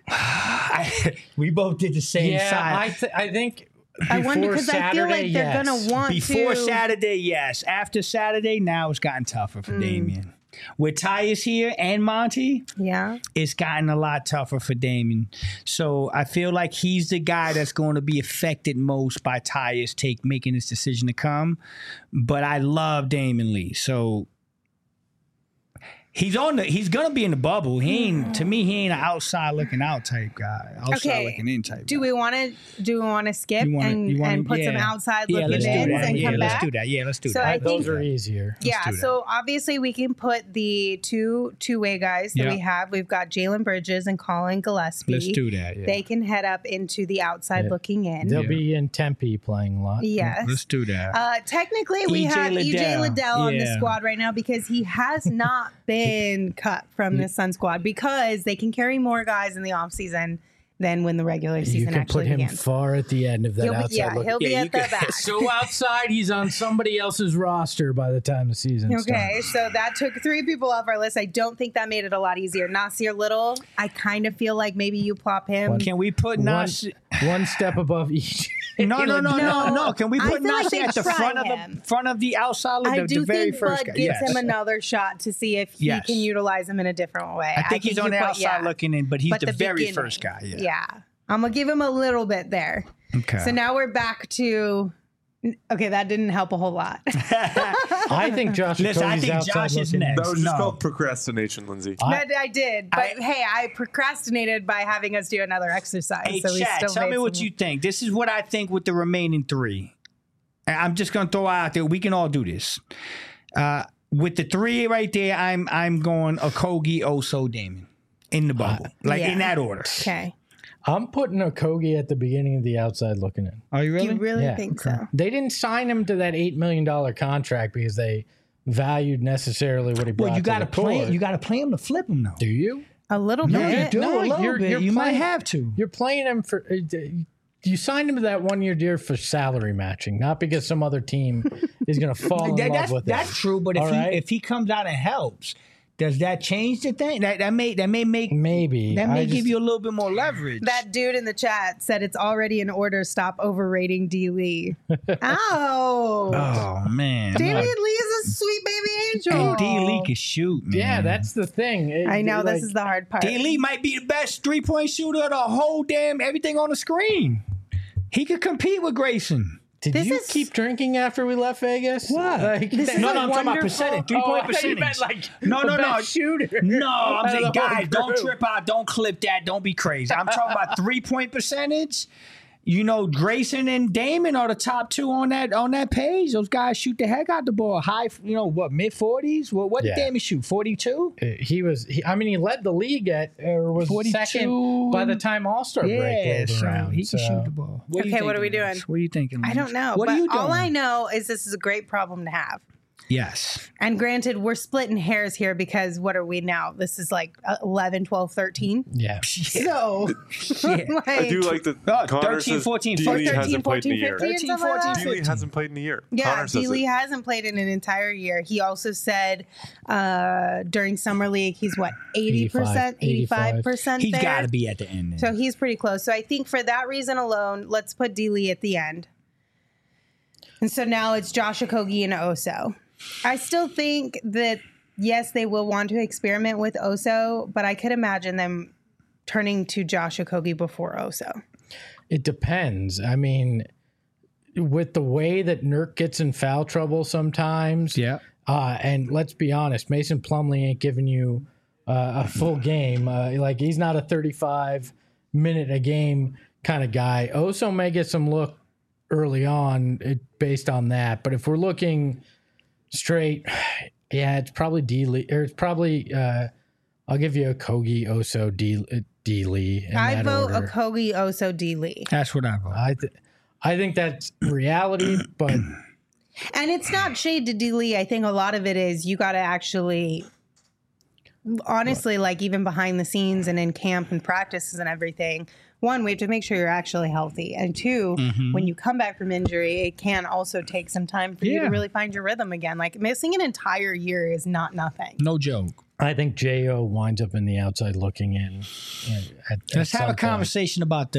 We both did the same Yeah, side. I think. I wonder because because I feel like they're going to want Before to. Saturday, yes. After Saturday, now it's gotten tougher for Damian. With Tyus here and Monty, Yeah. it's gotten a lot tougher for Damian. So I feel like he's the guy that's going to be affected most by Tyus making this decision to come. But I love Damian Lee. So he's gonna be in the bubble. He ain't an outside looking out type guy. Outside looking in type Do guy. we want to skip You wanna- and put some yeah. outside Yeah, looking let's do ins that. and Yeah, come let's back? do that. Yeah, let's do So that. I think- Those are easier. Yeah, do that. so obviously we can put the two-way guys that Yeah. we have. We've got Jalen Bridges and Colin Gillespie. Let's do that. Yeah. They can head up into the outside Yeah. looking in. They'll be in Tempe playing a lot. Yes. Let's do that. Technically, we EJ have EJ Liddell. Liddell on the Yeah. squad right now because he has not been cut from the Sun squad because they can carry more guys in the offseason than when the regular You season can actually put him begins. far at the end of that outside look. He'll be Yeah, at you the could- back. So outside, he's on somebody else's roster by the time the season starts. Okay, so that took 3 people off our list. I don't think that made it a lot easier. Nasir Little, I kind of feel like maybe you plop him. Can we put Nasir? One step above each. No. Can we I put feel like Nasir they at the try front front of the outside look? I the do very think first Bud guy. gives Yes. him another shot to see if he Yes. can utilize him in a different way. I think he's on the you put- outside looking in, but he's But the very beginning. first guy. Yeah. Yeah. I'm going to give him a little bit there. Okay. So now we're back to. Okay, that didn't help a whole lot. I think Josh Listen, I Okogie's think outside Josh is looking- next. That was just No. called procrastination, Lindsay. That I did. But hey, I procrastinated by having us do another exercise. Hey, so we chat, still tell made me what some- you think. This is what I think with the remaining 3. And I'm just going to throw out there. We can all do this. With the 3 right there, I'm going Okogie, Oso, Damon in the bubble. In that order. Okay. I'm putting Okogie at the beginning of the outside looking in. Are you really? You really Yeah. think so? They didn't sign him to that $8 million contract because they valued necessarily what he brought Well, you got to to the play. court. You got to play him to flip him, though. Do you? A little No, bit. you do No, a little you're bit. You might playing- have to. You're playing him for. You signed him to that 1 year deal for salary matching, not because some other team is going to fall in love with him. That's true, but All right? if he comes out and helps, does that change the thing? That may make Maybe that may I give just- you a little bit more leverage. That dude in the chat said it's already in order. Stop overrating D. Lee. Ow. oh man, Damian Lee is a sweet baby angel. and D Lee can shoot, man. Yeah, that's the thing. I know Like, this is the hard part. D Lee might be the best 3-point shooter of the whole damn everything on the screen. He could compete with Grayson. Did This you is- keep drinking after we left Vegas? What? Like, This that's is No, no, I'm talking about wonderful- percentage, 3-point I thought you meant percentage. like No, the no, no. best shooter. No, I'm out of saying, the whole guys, don't group. trip out. Don't clip that. Don't be crazy. I'm talking about 3-point percentage. You know, Grayson and Damon are the top two on that page. Those guys shoot the heck out the ball. High, mid 40s? What did Yeah. Damon shoot? 42? He led the league at, or was 42. second by the time All-Star break Yeah, rolled so around. he can shoot the ball. What Okay, what are we doing? Lance? What are you thinking? I don't know. What but are you doing? all I know is this is a great problem to have. Yes. And granted, we're splitting hairs here because what are we now? This is like 11, 12, 13. Yeah. So, like, I do like the Oh, Connor 13, says 14, D. 13, Lee hasn't played in a 14, year. 15, 13, something like 14, that. D. Lee hasn't played in a year. Yeah, Connor says D. Lee it. hasn't played in an entire year. He also said during summer league, he's what, 80%, 85% He's there. got to be at the end. Then. So he's pretty close. So I think for that reason alone, let's put D. Lee at the end. And so now it's Josh Okogie and Oso. I still think that, yes, they will want to experiment with Oso, but I could imagine them turning to Josh Okogie before Oso. It depends. I mean, with the way that Nurk gets in foul trouble sometimes. Yeah. And let's be honest, Mason Plumlee ain't giving you a full game. Like, he's not a 35-minute a game kind of guy. Oso may get some look early on based on that. But if we're looking straight, yeah, it's probably D. Lee, or it's probably, I'll give you Okogie, Oso, D. Lee. In I that vote order. Okogie, Oso, D. Lee. That's what I vote. I think that's reality, but And it's not shade to D. Lee. I think a lot of it is you got to actually, honestly, like even behind the scenes and in camp and practices and everything, one, we have to make sure you're actually healthy. And two, when you come back from injury, it can also take some time for you to Yeah. really find your rhythm again. Like missing an entire year is not nothing. No joke. I think J.O. winds up in the outside looking in. Let's have a conversation about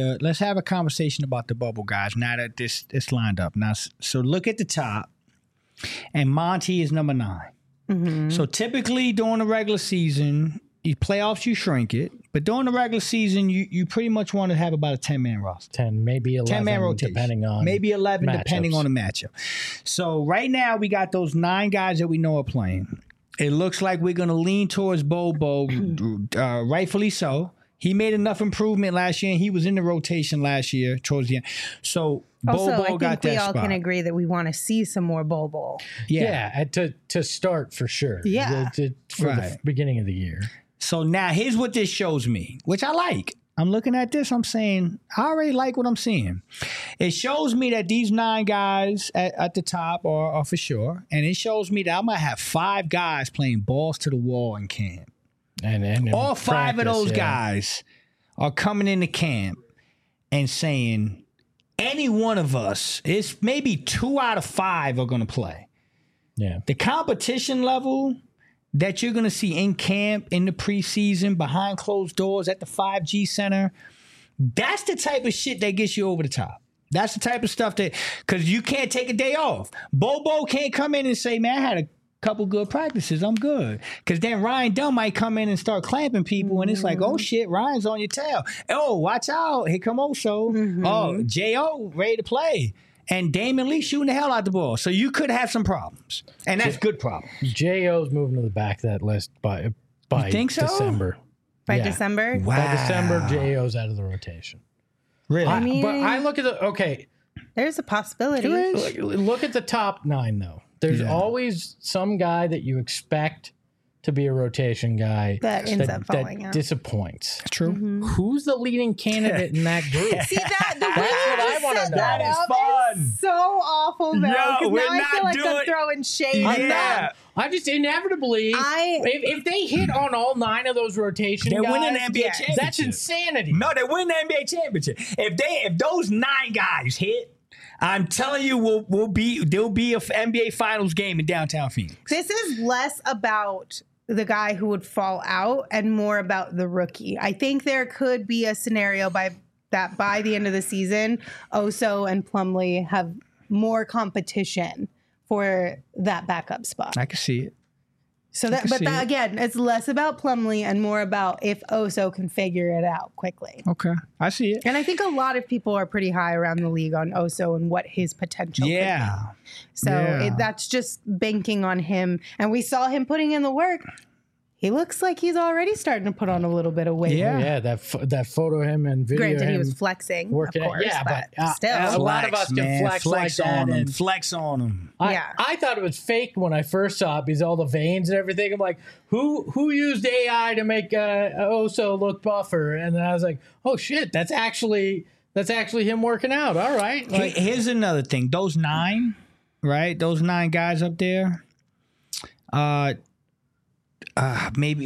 the bubble guys now that this lined up. Now, so look at the top, and Monty is number 9. So typically during the regular season, playoffs you shrink it, but during the regular season you pretty much want to have about a 10-man roster. 10, maybe 11, 10-man rotation. depending on maybe 11 depending matchups. on the matchup. So right now we got those 9 guys that we know are playing. It looks like we're going to lean towards Bobo, rightfully so. He made enough improvement last year, and he was in the rotation last year towards the end. So Also, Bobo I think got we that all spot. can agree that we want to see some more Bobo. Yeah, to start for sure. Yeah. For the Right. beginning of the year. So now here's what this shows me, which I like. I'm looking at this. I'm saying, I already like what I'm seeing. It shows me that these 9 guys at the top are for sure. And it shows me that I might have 5 guys playing balls to the wall in camp. And All 5 of practice, those yeah. guys are coming into camp and saying, any one of us, it's maybe 2 out of 5 are going to play. Yeah. The competition level that you're going to see in camp, in the preseason, behind closed doors at the 5G Center, that's the type of shit that gets you over the top. That's the type of stuff that, because you can't take a day off. Bobo can't come in and say, man, I had a couple good practices. I'm good. Because then Ryan Dunn might come in and start clamping people, and it's like, oh, shit, Ryan's on your tail. Oh, watch out. Here come Oso. Oh, J.O. ready to play. And Damon Lee shooting the hell out the ball. So you could have some problems. And that's good problems. J.O.'s moving to the back of that list by think so? December. By Yeah. December? Wow. By December, J.O.'s out of the rotation. Really? But I look at There's a possibility. look at the top 9 though. There's always some guy that you expect to be a rotation guy That ends up falling out. disappoints. True. Who's the leading candidate in that group? See that? The way That's you what I just wanna set know. that That is up fun. is so awful, though. Yo, 'cause we're now I feel not like I'm doing- throwing shade at Yeah. them. I just inevitably, if they hit on all 9 of those rotation They're guys, winning the NBA championship. that's insanity. No, they win the NBA championship. If those 9 guys hit, I'm telling you, there'll be a NBA Finals game in downtown Phoenix. This is less about the guy who would fall out and more about the rookie. I think there could be a scenario by the end of the season, Oso and Plumlee have more competition for that backup spot. I can see it. So can that, but see that, it. again, it's less about Plumlee and more about if Oso can figure it out quickly. Okay, I see it. And I think a lot of people are pretty high around the league on Oso and what his potential could be. Yeah. So Yeah. that's just banking on him. And we saw him putting in the work. He looks like he's already starting to put on a little bit of weight. Yeah. Yeah, that photo of him and video. Granted, he him was flexing, working of out. course, Yeah, but, still. a lot of us can man. flex like that on them. and- Flex on them. Yeah. I thought it was fake when I first saw it because all the veins and everything. I'm like, who used AI to make Oso look buffer? And then I was like, oh shit, that's actually him working out. All right, like, Here's another thing. Those 9, right? Those 9 guys up there. Maybe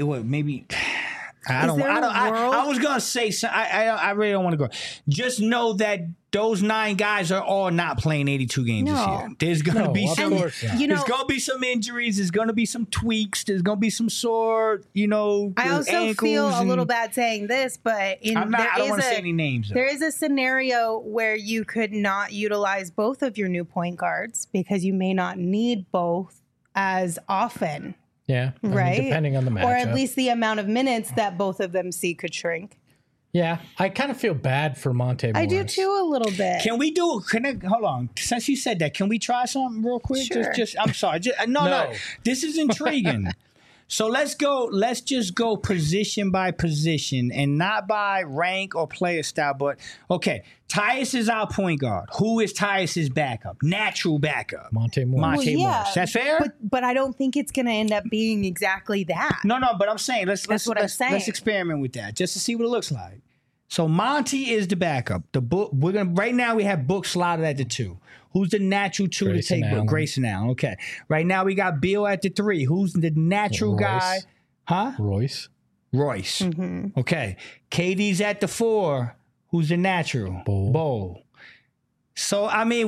I don't. there a world? I was gonna say. I really don't want to go. Just know that those 9 guys are all not playing 82 games this No. year. There's gonna No, be of some. course not. You know, There's gonna be some injuries. There's gonna be some tweaks. There's gonna be some sore. I also ankles feel a and- little bad saying this, but I don't want to say any names. Though. there is a scenario where you could not utilize both of your new point guards because you may not need both as often. yeah, I mean, Right? depending on the matchup. Or at least the amount of minutes that both of them see could shrink. yeah, I kind of feel bad for Monte Morris. I do too a little bit. Can we do? Hold on. Since you said that, can we try something real quick? Sure. I'm sorry. No. No. This is intriguing. So let's go. Let's just go position by position and not by rank or player style. But okay, Tyus is our point guard. Who is Tyus's backup? Natural backup. Monte Morris. Monte Well, yeah, Morris. That's fair. But I don't think it's going to end up being exactly that. No. But I'm saying let's what I'm saying. let's experiment with that just to see what it looks like. So Monty is the backup. The book we're gonna right now we have Book slotted at the 2. Who's the natural 2 Grayson to take Book? Allen. Grayson Allen. Okay. Right now we got Bill at the 3. Who's the natural Royce. guy? Huh? Royce. Royce. Mm-hmm. Okay. KD's at the 4. Who's the natural? Bowl. So I mean,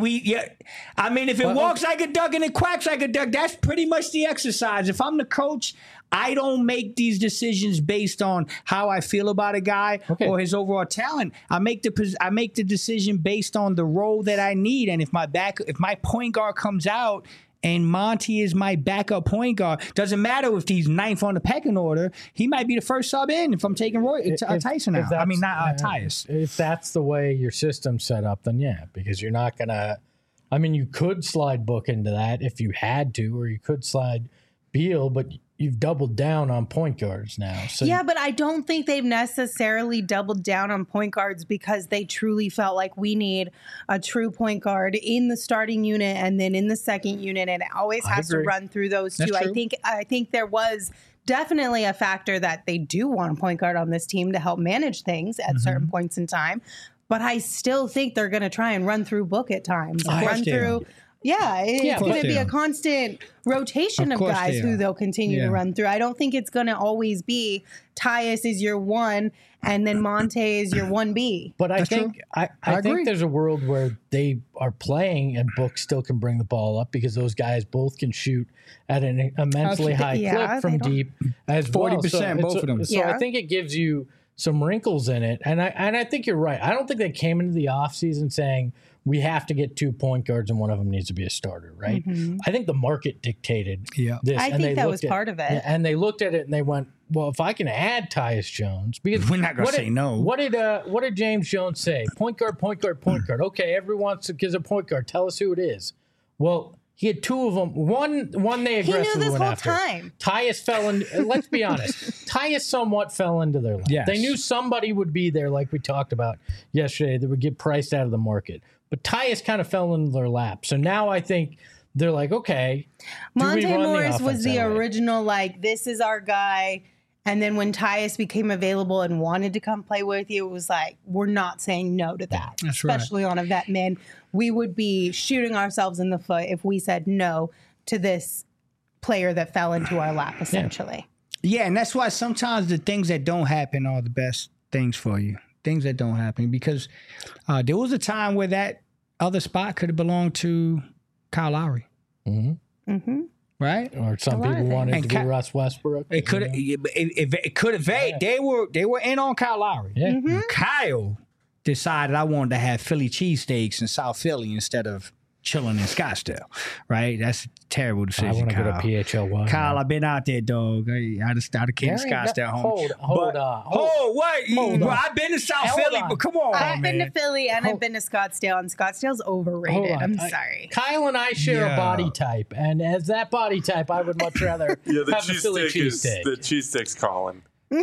if it walks like a duck and it quacks like a duck, that's pretty much the exercise. If I'm the coach, I don't make these decisions based on how I feel about a guy or his overall talent. I make the decision based on the role that I need. And if my point guard comes out and Monty is my backup point guard, doesn't matter if he's 9th on the pecking order. He might be the first sub in if I'm taking Tyson out. I mean, not Tyus. If that's the way your system's set up, then yeah, because you're not gonna. I mean, you could slide Book into that if you had to, or you could slide Beal, but you've doubled down on point guards now. So Yeah, but I don't think they've necessarily doubled down on point guards because they truly felt like we need a true point guard in the starting unit and then in the second unit, and it always has to agree. run through those That's two. true. I think there was definitely a factor that they do want a point guard on this team to help manage things at certain points in time. But I still think they're going to try and run through Book at times. Of course Run they through. are. Yeah, it's of going course to be they a are. constant rotation Of of course guys they who are. they'll continue Yeah. to run through. I don't think it's going to always be Tyus is your 1 and then Monte is your 1B. But I That's think true. I agree. think there's a world where they are playing and Book still can bring the ball up because those guys both can shoot at an immensely high Yeah, clip from they don't- deep as 40%, well. both of them. So I Yeah. think it gives you some wrinkles in it, and I think you're right. I don't think they came into the offseason saying we have to get 2 point guards and one of them needs to be a starter, right? I think the market dictated Yeah. this. I and think they that looked was at- part of it. yeah, and they looked at it and they went, well, if I can add Tyus Jones, because We're not gonna what say did- no. What did James Jones say? Point guard, point guard, point guard. Okay, everyone gives a point guard. Tell us who it is. Well, he had 2 of them. One they He aggressively knew this went whole after. time. Tyus fell in. Let's be honest. Tyus somewhat fell into their lap. Yes. They knew somebody would be there, like we talked about yesterday, that would get priced out of the market. But Tyus kind of fell into their lap. So now I think they're like, okay, do we Monte run the Morris was offense the that way? original, like, this is our guy. And then when Tyus became available and wanted to come play with you, it was like, we're not saying no to that. That's right. Especially on a vet min. We would be shooting ourselves in the foot if we said no to this player that fell into our lap, essentially. Yeah, and that's why sometimes the things that don't happen are the best things for you. Things that don't happen. Because there was a time where that other spot could have belonged to Kyle Lowry. Mm-hmm. Right? Or some A lot of people wanted things. to be Russ Westbrook. It could have. It could have. They were in on Kyle Lowry. Yeah. Mm-hmm. Kyle decided I wanted to have Philly cheesesteaks in South Philly instead of chilling in Scottsdale. Right? That's a terrible I decision. want to go to Kyle. PHLY. Kyle, I've been out there, dog. I just started came to There ain't Scottsdale no- home. hold on. What? Hold Well, on. I've been to South Hold Philly, on. but come on, I've been to man. Philly and I've been to Scottsdale, and Scottsdale's overrated. Hold on. I'm sorry. Kyle and I share a Yeah. body type, and as that body type, I would much rather Yeah, the have a Philly cheesesteak's calling.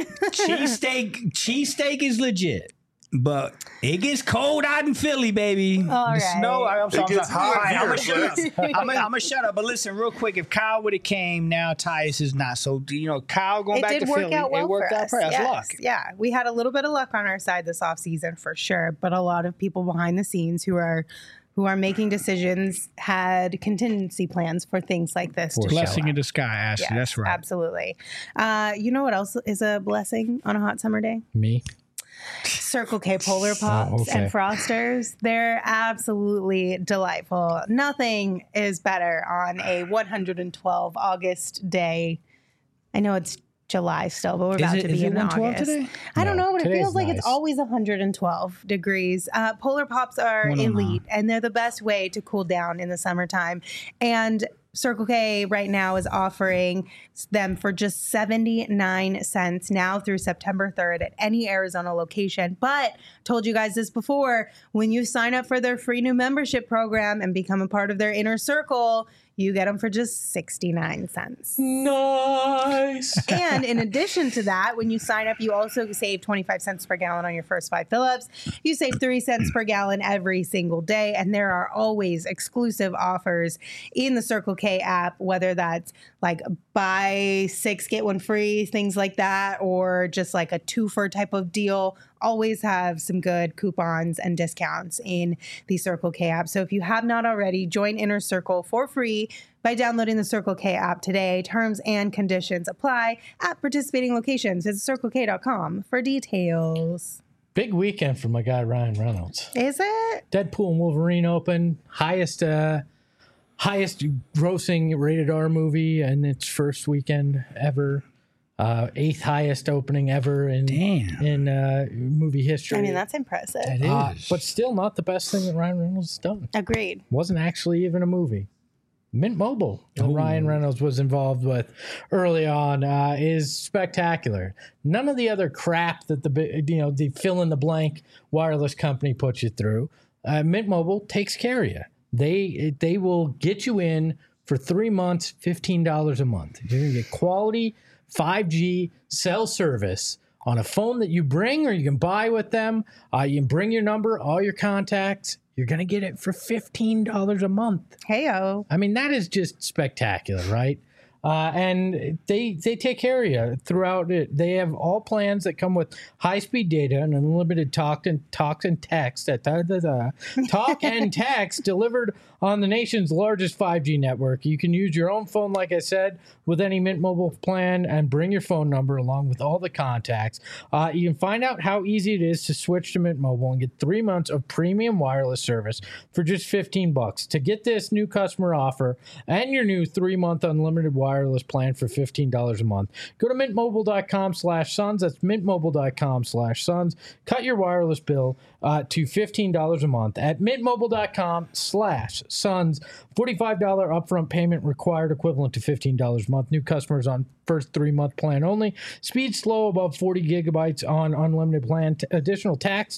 Cheesesteak is legit. But it gets cold out in Philly, baby. All The right. snow. I'm It gets hot All right, I'm here, gonna shut up. I'm gonna shut up. But listen, real quick, if Kyle would have came, now Tyus is not. So Kyle going It back did to work Philly, out well it worked for out us. for us. Yes. Luck. Yeah, we had a little bit of luck on our side this offseason for sure, but a lot of people behind the scenes who are making decisions had contingency plans for things like this. To Blessing show in up. the sky, Ashley. Yes, That's right. Absolutely. You know what else is a blessing on a hot summer day? Me. Circle K Polar Pops okay. and Frosters. They're absolutely delightful. Nothing is better on a 112 August day. I know it's July still, but we're about to be in 112 August. today? I don't No, know, but it today's feels like nice. it's always 112 degrees. Polar Pops are 109. elite, and they're the best way to cool down in the summertime. And Circle K right now is offering them for just 79 cents now through September 3rd at any Arizona location. But told you guys this before, when you sign up for their free new membership program and become a part of their inner circle, you get them for just 69 cents. Nice. And in addition to that, when you sign up, you also save 25 cents per gallon on your first 5 fill-ups. You save 3 cents per gallon every single day. And there are always exclusive offers in the Circle K app, whether that's like buy 6, get 1 free, things like that, or just like a 2-for type of deal. Always have some good coupons and discounts in the Circle K app. So if you have not already, join Inner Circle for free by downloading the Circle K app today. Terms and conditions apply at participating locations. Visit CircleK.com for details. Big weekend for my guy Ryan Reynolds. Is it? Deadpool and Wolverine open, highest grossing rated R movie in its first weekend ever. 8th highest opening ever in movie history. I mean, that's impressive. It is. But still not the best thing that Ryan Reynolds has done. Agreed. Wasn't actually even a movie. Mint Mobile that Ryan Reynolds was involved with early on is spectacular. None of the other crap that the fill in the blank wireless company puts you through. Mint Mobile takes care of you. They will get you in for 3 months, $15 a month. You're gonna get quality 5G cell service on a phone that you bring or you can buy with them. You can bring your number, all your contacts. You're going to get it for $15 a month. Heyo. I mean, that is just spectacular, right? And they take care of you throughout it. They have all plans that come with high-speed data and unlimited talk and text. Talk and text delivered on the nation's largest 5G network. You can use your own phone, like I said, with any Mint Mobile plan and bring your phone number along with all the contacts. You can find out how easy it is to switch to Mint Mobile and get 3 months of premium wireless service for just $15. To get this new customer offer and your new 3-month unlimited wireless plan for $15 a month, go to mintmobile.com/sons. That's mintmobile.com/sons. Cut your wireless bill to $15 a month at mintmobile.com/sons. $45 upfront payment required, equivalent to $15 a month. New customers on first 3-month plan only. Speed slow above 40 gigabytes on unlimited plan. Additional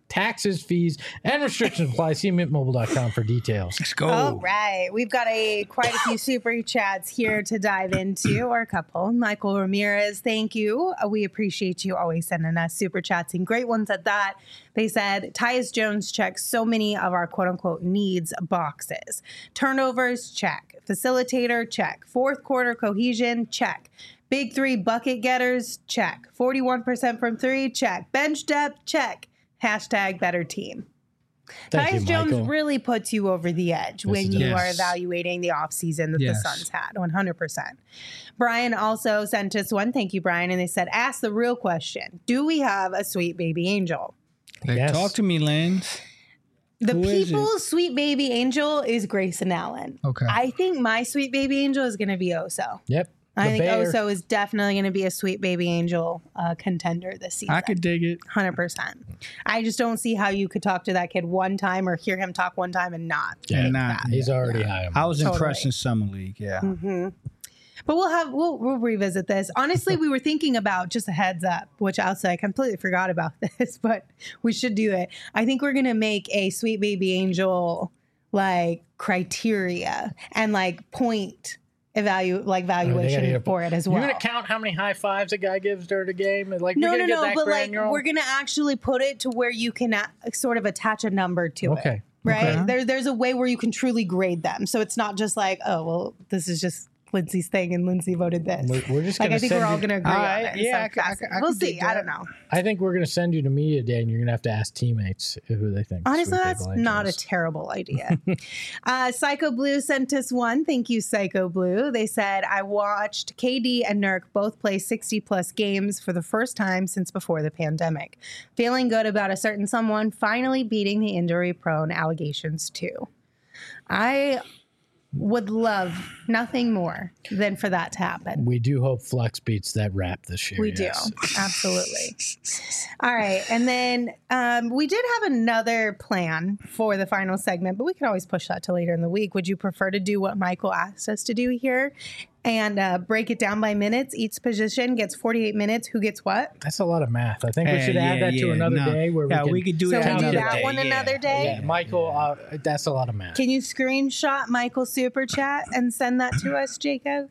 Taxes, fees, and restrictions apply. See mintmobile.com for details. Let's go. All right. We've got quite a few super chats here to dive into, or a couple. Michael Ramirez, thank you. We appreciate you always sending us super chats, and great ones at that. They said, Tyus Jones checks so many of our quote-unquote needs boxes. Turnovers, check. Facilitator, check. Fourth quarter cohesion, check. Big three bucket getters, check. 41% from three, check. Bench depth, check. Hashtag better team. Thank you, Tyus Jones Michael. really puts you over the edge when it you does. are evaluating the offseason that the Suns had, 100%. Brian also sent us one. Thank you, Brian. And they said, ask the real question. Do we have a sweet baby angel? Yes. Talk to me, Lens. The Who is it? people's sweet baby angel is Grayson Allen. Okay. I think my sweet baby angel is going to be Oso. Yep. I The think Bear. Oso is definitely going to be a sweet baby angel contender this season. I could dig it. 100%. I just don't see how you could talk to that kid one time or hear him talk one time and not. Yeah, think nah, that. He's already high. I was Totally. impressed in Summer League. Yeah. But we'll revisit this. Honestly, we were thinking about, just a heads up, which I'll say I completely forgot about this, but we should do it. I think we're gonna make a sweet baby angel like criteria and like point valuation for it as well. You're gonna count how many high fives a guy gives during a game? Like No, we're no, gonna no. get that But like granular? we're gonna actually put it to where you can sort of attach a number to it. Okay. Right? Okay. There's a way where you can truly grade them. So it's not just like, oh, well, this is just Lindsay's thing and Lindsay voted this. We're just Like, gonna I think send we're all you- going to agree All on right. it. Yeah, So I fascinating. could We'll dig see. I that. don't know. I think we're gonna send you to media day, and you're gonna have to ask teammates who they think. Honestly, Sweet that's Baby not a Angels. terrible idea. Psycho Blue sent us one. Thank you, Psycho Blue. They said, I watched KD and Nurk both play 60-plus games for the first time since before the pandemic. Feeling good about a certain someone finally beating the injury-prone allegations, too. I would love nothing more than for that to happen. We do hope Flex beats that rap this year. We yes. do. Absolutely. All right. And then we did have another plan for the final segment, but we could always push that to later in the week. Would you prefer to do what Michael asked us to do here and break it down by minutes? Each position gets 48 minutes. Who gets what? That's a lot of math. I think we should add that to another day where we could do So that we do another that day. one another day? Yeah, Michael, that's a lot of math. Can you screenshot Michael's super chat and send that to us, Jacob?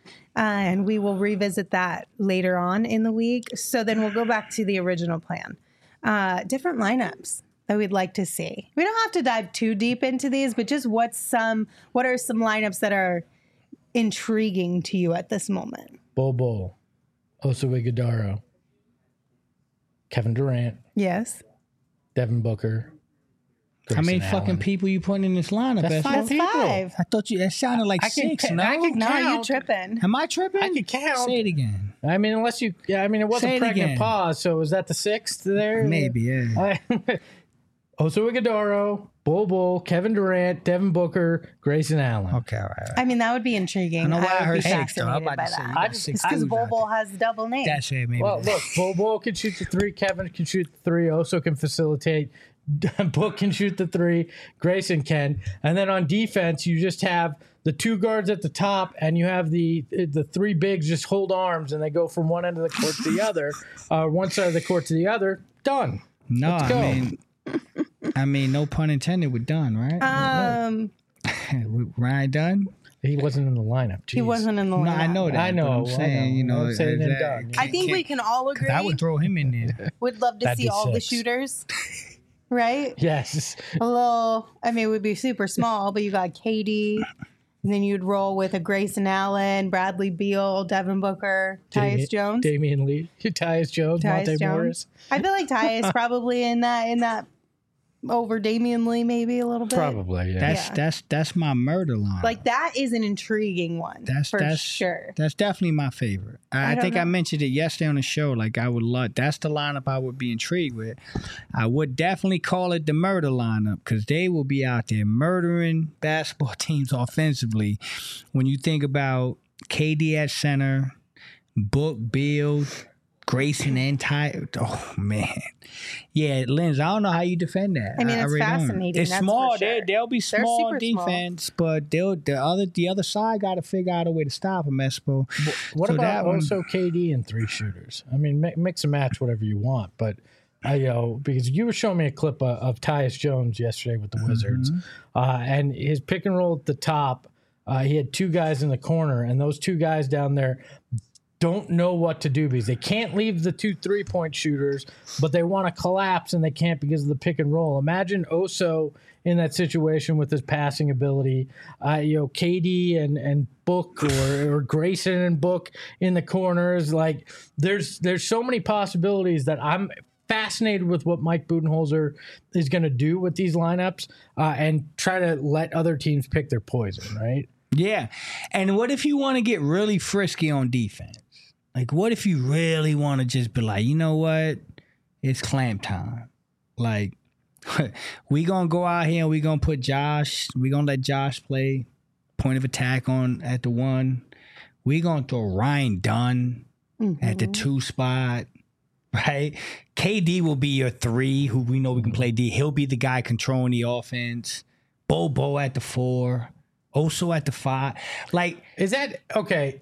And we will revisit that later on in the week. So then we'll go back to the original plan. Different lineups that we'd like to see. We don't have to dive too deep into these, but just what are some lineups that are intriguing to you at this moment? Bol, Oso Ighodaro, Kevin Durant, Yes. Devin Booker. How many Grayson fucking Allen. people you putting in this lineup? That's Espo? five That's people. 5. I thought it sounded like I can 6. ca- No, I can No, you count. tripping. am I tripping? I can count. Say it again. I mean, unless you, it Say wasn't it pregnant again. pause. So was that the 6th there? Maybe, yeah. Oso Ighodaro, Bol, Kevin Durant, Devin Booker, Grayson Allen. Okay, all right. I mean, that would be intriguing. I know why I would heard be 6 though. I'm fascinated about by to say that. you got just- 6 Because dudes out Bobo there. has double names. That's it, maybe. Well, look, Bol can shoot the 3, Kevin can shoot the 3, Oso can facilitate, Book can shoot the 3, Grayson can. And then on defense, you just have the 2 guards at the top, and you have the 3 bigs just hold arms, and they go from one end of the court to the other, one side of the court to the other. Done. No, Let's go. I mean, no pun intended. We're done, right? Ryan done? He wasn't in the lineup. He Jeez. wasn't in the No, lineup. I know that. I know, But I'm saying, you know, I'm saying is and that- done. I think we can all agree. I would throw him in there. Would love to That'd see be all the 6. shooters, right? Yes. A little. I mean, it would be super small, but you got Katie, and then you'd roll with a Grayson Allen, Bradley Beal, Devin Booker, Tyus Jones. Damian Lee, Tyus Jones, Tyus Monte Jones. Morris. I feel like Tyus probably in that over Damian Lee maybe a little bit. Probably, yeah. That's my murder line. Like that is an intriguing one That's sure. That's definitely my favorite. I don't think I know. mentioned it yesterday on the show. Like I would love. That's the lineup I would be intrigued with. I would definitely call it the murder lineup because they will be out there murdering basketball teams offensively. When you think about KD at center, Book, Beal, Grayson, and Ty. Oh man, yeah, Linz. I don't know how you defend that. I mean, it's really don't. fascinating, It's that's small. for sure. They'll be They're small super small. defense, but the other side got to figure out a way to stop them, Espo. What So about that one- also KD and 3 shooters? I mean, mix and match whatever you want, but because you were showing me a clip of Tyus Jones yesterday with the Wizards, and his pick and roll at the top, he had two guys in the corner, and those two guys down there don't know what to do because they can't leave the 2 3-point shooters, but they want to collapse and they can't because of the pick and roll. Imagine Oso in that situation with his passing ability. KD and Book or Grayson and Book in the corners. Like there's so many possibilities that I'm fascinated with what Mike Budenholzer is going to do with these lineups and try to let other teams pick their poison, right? Yeah. And what if you want to get really frisky on defense? Like, what if you really want to just be like, you know what? It's clamp time. Like, we going to go out here and we going to put Josh. We going to let Josh play point of attack on at the 1. We going to throw Ryan Dunn at the 2 spot, right? KD will be your 3, who we know we can play D. He'll be the guy controlling the offense. Bobo at the 4. Oso at the 5. Like, is that okay?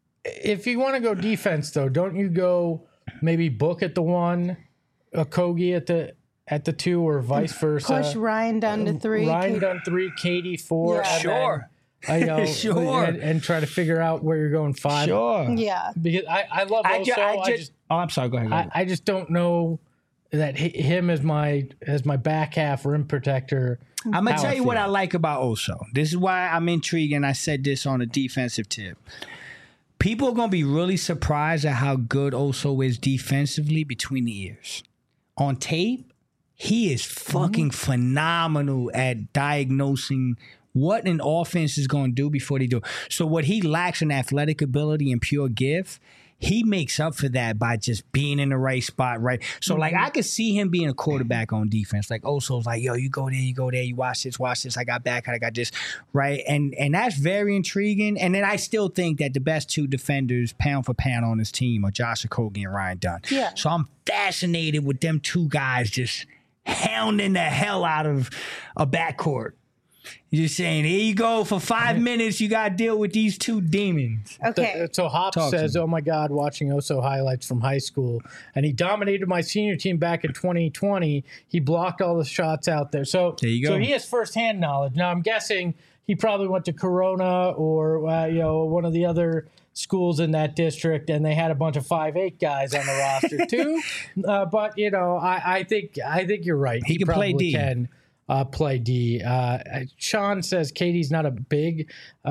If you want to go defense, though, don't you go maybe Book at the 1, Okogie at the 2, or vice versa? Push Ryan Dunn to 3. Ryan Dunn 3, KD 4. Yeah. Sure. Sure. And try to figure out where you're going 5. Sure. Yeah. Because I love Oso. I'm sorry. Go ahead. I just don't know that him as my back half rim protector. I'm going to tell you what I like about Oso. This is why I'm intrigued, and I said this on a defensive tip. People are going to be really surprised at how good Oso is defensively between the ears. On tape, he is fucking phenomenal at diagnosing what an offense is going to do before they do. So what he lacks in athletic ability and pure gift, he makes up for that by just being in the right spot, right? So, like, I could see him being a quarterback on defense. Like, Oso's like, yo, you go there, you watch this, I got back, I got this, right? And that's very intriguing. And then I still think that the best 2 defenders, pound for pound on this team, are Josh Okogie and Ryan Dunn. Yeah. So I'm fascinated with them 2 guys just hounding the hell out of a backcourt. You're saying, here you go, for 5 minutes, you got to deal with these 2 demons. Okay. So Hop says, oh my God, watching Oso highlights from high school. And he dominated my senior team back in 2020. He blocked all the shots out there. So there you go. So he has firsthand knowledge. Now, I'm guessing he probably went to Corona or one of the other schools in that district, and they had a bunch of 5'8" guys on the roster too. But, I think you're right. He can play D. Play D. Sean says KD's not a big,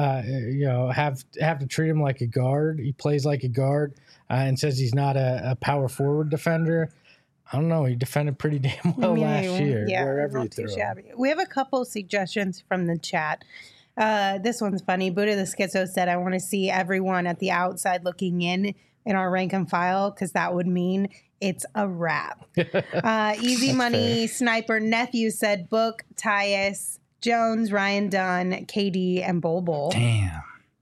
have to treat him like a guard. He plays like a guard and says he's not a power forward defender. I don't know. He defended pretty damn well last year. Yeah, wherever you not too threw him. shabby. We have a couple suggestions from the chat. This one's funny. Buddha the Schizo said, I want to see everyone at the outside looking in our rank and file, because that would mean it's a wrap. Easy Money fair. Sniper Nephew said Book, Tyus Jones, Ryan Dunn, KD, and Bol. Damn.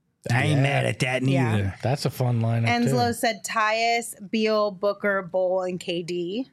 I ain't mad at that neither. Yeah. That's a fun lineup. Enslow too. said Tyus, Beal, Booker, Bol, and KD.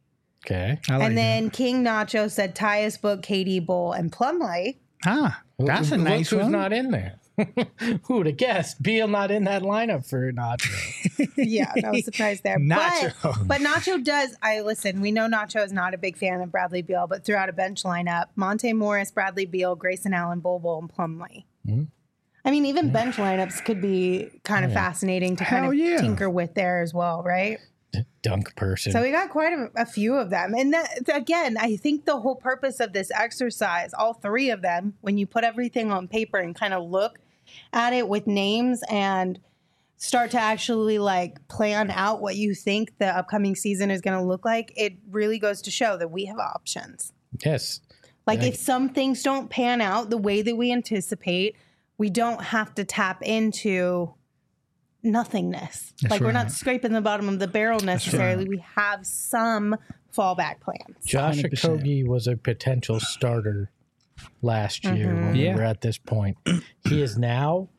Okay. And then King Nacho said Tyus, Book, KD, Bol, and Plumlee. That's a nice one. Who's not in there? Who would have guessed? Beal not in that lineup for Nacho. Yeah, no surprise there. Nacho. But Nacho does. Listen, we know Nacho is not a big fan of Bradley Beal, but throughout a bench lineup, Monte Morris, Bradley Beal, Grayson Allen, Bol, and Plumlee. Mm-hmm. I mean, even bench lineups could be kind of fascinating to kind of tinker with there as well, right? Dunk person. So we got quite a few of them. And that, again, I think the whole purpose of this exercise, all 3 of them, when you put everything on paper and kind of look at it with names and start to actually like plan out what you think the upcoming season is going to look like, it really goes to show that we have options. Yes. Like if some things don't pan out the way that we anticipate, we don't have to tap into nothingness. That's like, we're not scraping the bottom of the barrel necessarily. We have some fallback plans. Josh Okogie was a potential starter last year when we were at this point. He is now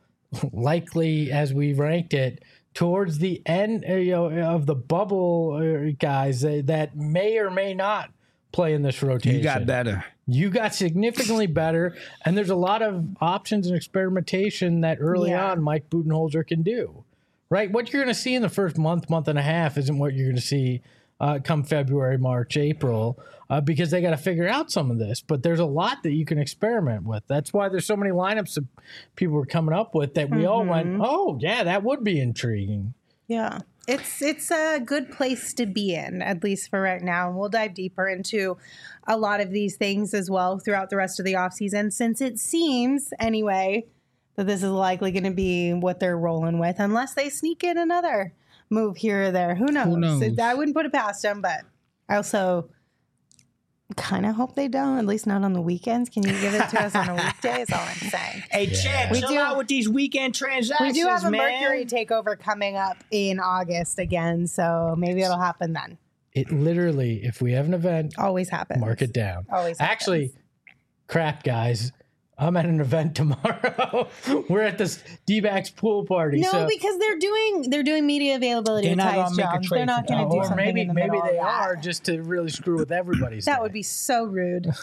likely, as we ranked it, towards the end of the bubble guys that may or may not play in this rotation. You got better. You got significantly better, and there's a lot of options and experimentation that early on Mike Budenholzer can do. Right? What you're going to see in the first month and a half isn't what you're going to see come February, March, April, because they got to figure out some of this. But there's a lot that you can experiment with. That's why there's so many lineups that people were coming up with that we all went, oh, yeah, that would be intriguing. Yeah. It's a good place to be in, at least for right now. And we'll dive deeper into a lot of these things as well throughout the rest of the offseason, since it seems, anyway, that this is likely going to be what they're rolling with, unless they sneak in another move here or there. Who knows? I wouldn't put it past them, but I also kind of hope they don't, at least not on the weekends. Can you give it to us on a weekday is all I'm saying. Hey, Chad, chill out with these weekend transactions, We do have a man. Mercury takeover coming up in August again, so maybe it'll happen then. It literally, if we have an event, Always happens. mark it down. Always happens. Actually, crap, guys. I'm at an event tomorrow. We're at this D-backs pool party. No, so, because they're doing media availability. They're with not Tyus gonna make a Jones. trade They're not for going to do or something maybe in the middle they of that. are just to really screw with everybody's That day. would be so rude.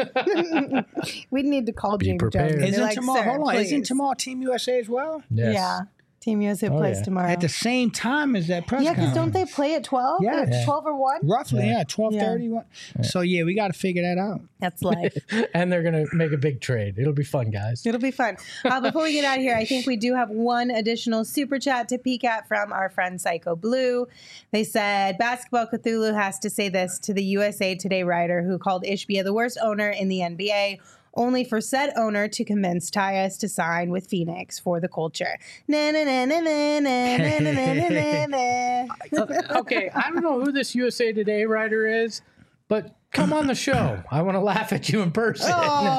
We'd need to call Be James prepared. Jones. and be Isn't like, tomorrow? "Sir, Hold on. Isn't please." tomorrow Team USA as well? Yes. Yeah, Team USA plays yeah. tomorrow. At the same time as that press Yeah, because conference. don't they play at 12? Yeah. Or 12 or 1? Roughly, yeah, 12:30. So yeah, we got to figure that out. That's life. And they're going to make a big trade. It'll be fun, guys. It'll be fun. Before we get out of here, I think we do have one additional super chat to peek at from our friend Psycho Blue. They said, Basketball Cthulhu has to say this to the USA Today writer who called Ishbia the worst owner in the NBA, only for said owner to convince Tyus to sign with Phoenix for the culture. Na na na na na na na na na na na. Okay, I don't know who this USA Today writer is, but come on the show. I want to laugh at you in person.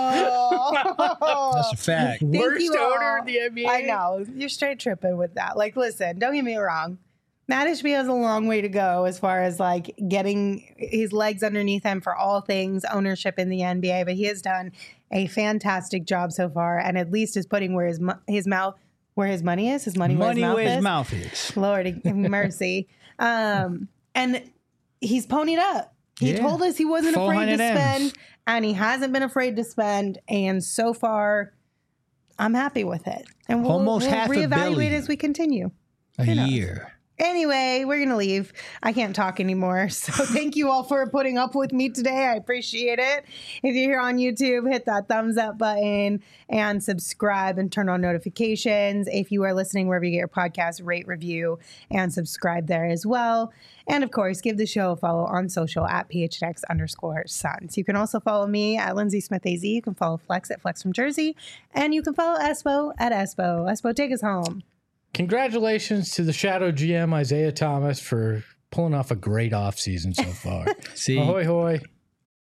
Oh. That's a fact. Thank Worst you owner all. in the NBA. I know. You're straight tripping with that. Like, listen, don't get me wrong. Matt Ishbia has a long way to go as far as like getting his legs underneath him for all things ownership in the NBA, but he has done a fantastic job so far, and at least is putting where his mouth, where his money is, his money where his mouth is. Lord have mercy. And he's ponied up. He told us he wasn't afraid to 400 M's. spend, and he hasn't been afraid to spend. And so far, I'm happy with it. And we'll Almost half a reevaluate billion. as we continue. A Who knows? year. Anyway, we're going to leave. I can't talk anymore. So thank you all for putting up with me today. I appreciate it. If you're here on YouTube, hit that thumbs up button and subscribe and turn on notifications. If you are listening wherever you get your podcast, rate, review, and subscribe there as well. And of course, give the show a follow on social at PHNX_Suns. You can also follow me at Lindsay Smith AZ. You can follow Flex at Flex from Jersey. And you can follow Espo at Espo. Espo, take us home. Congratulations to the Shadow GM, Isaiah Thomas, for pulling off a great offseason so far. See, Ahoy, hoy.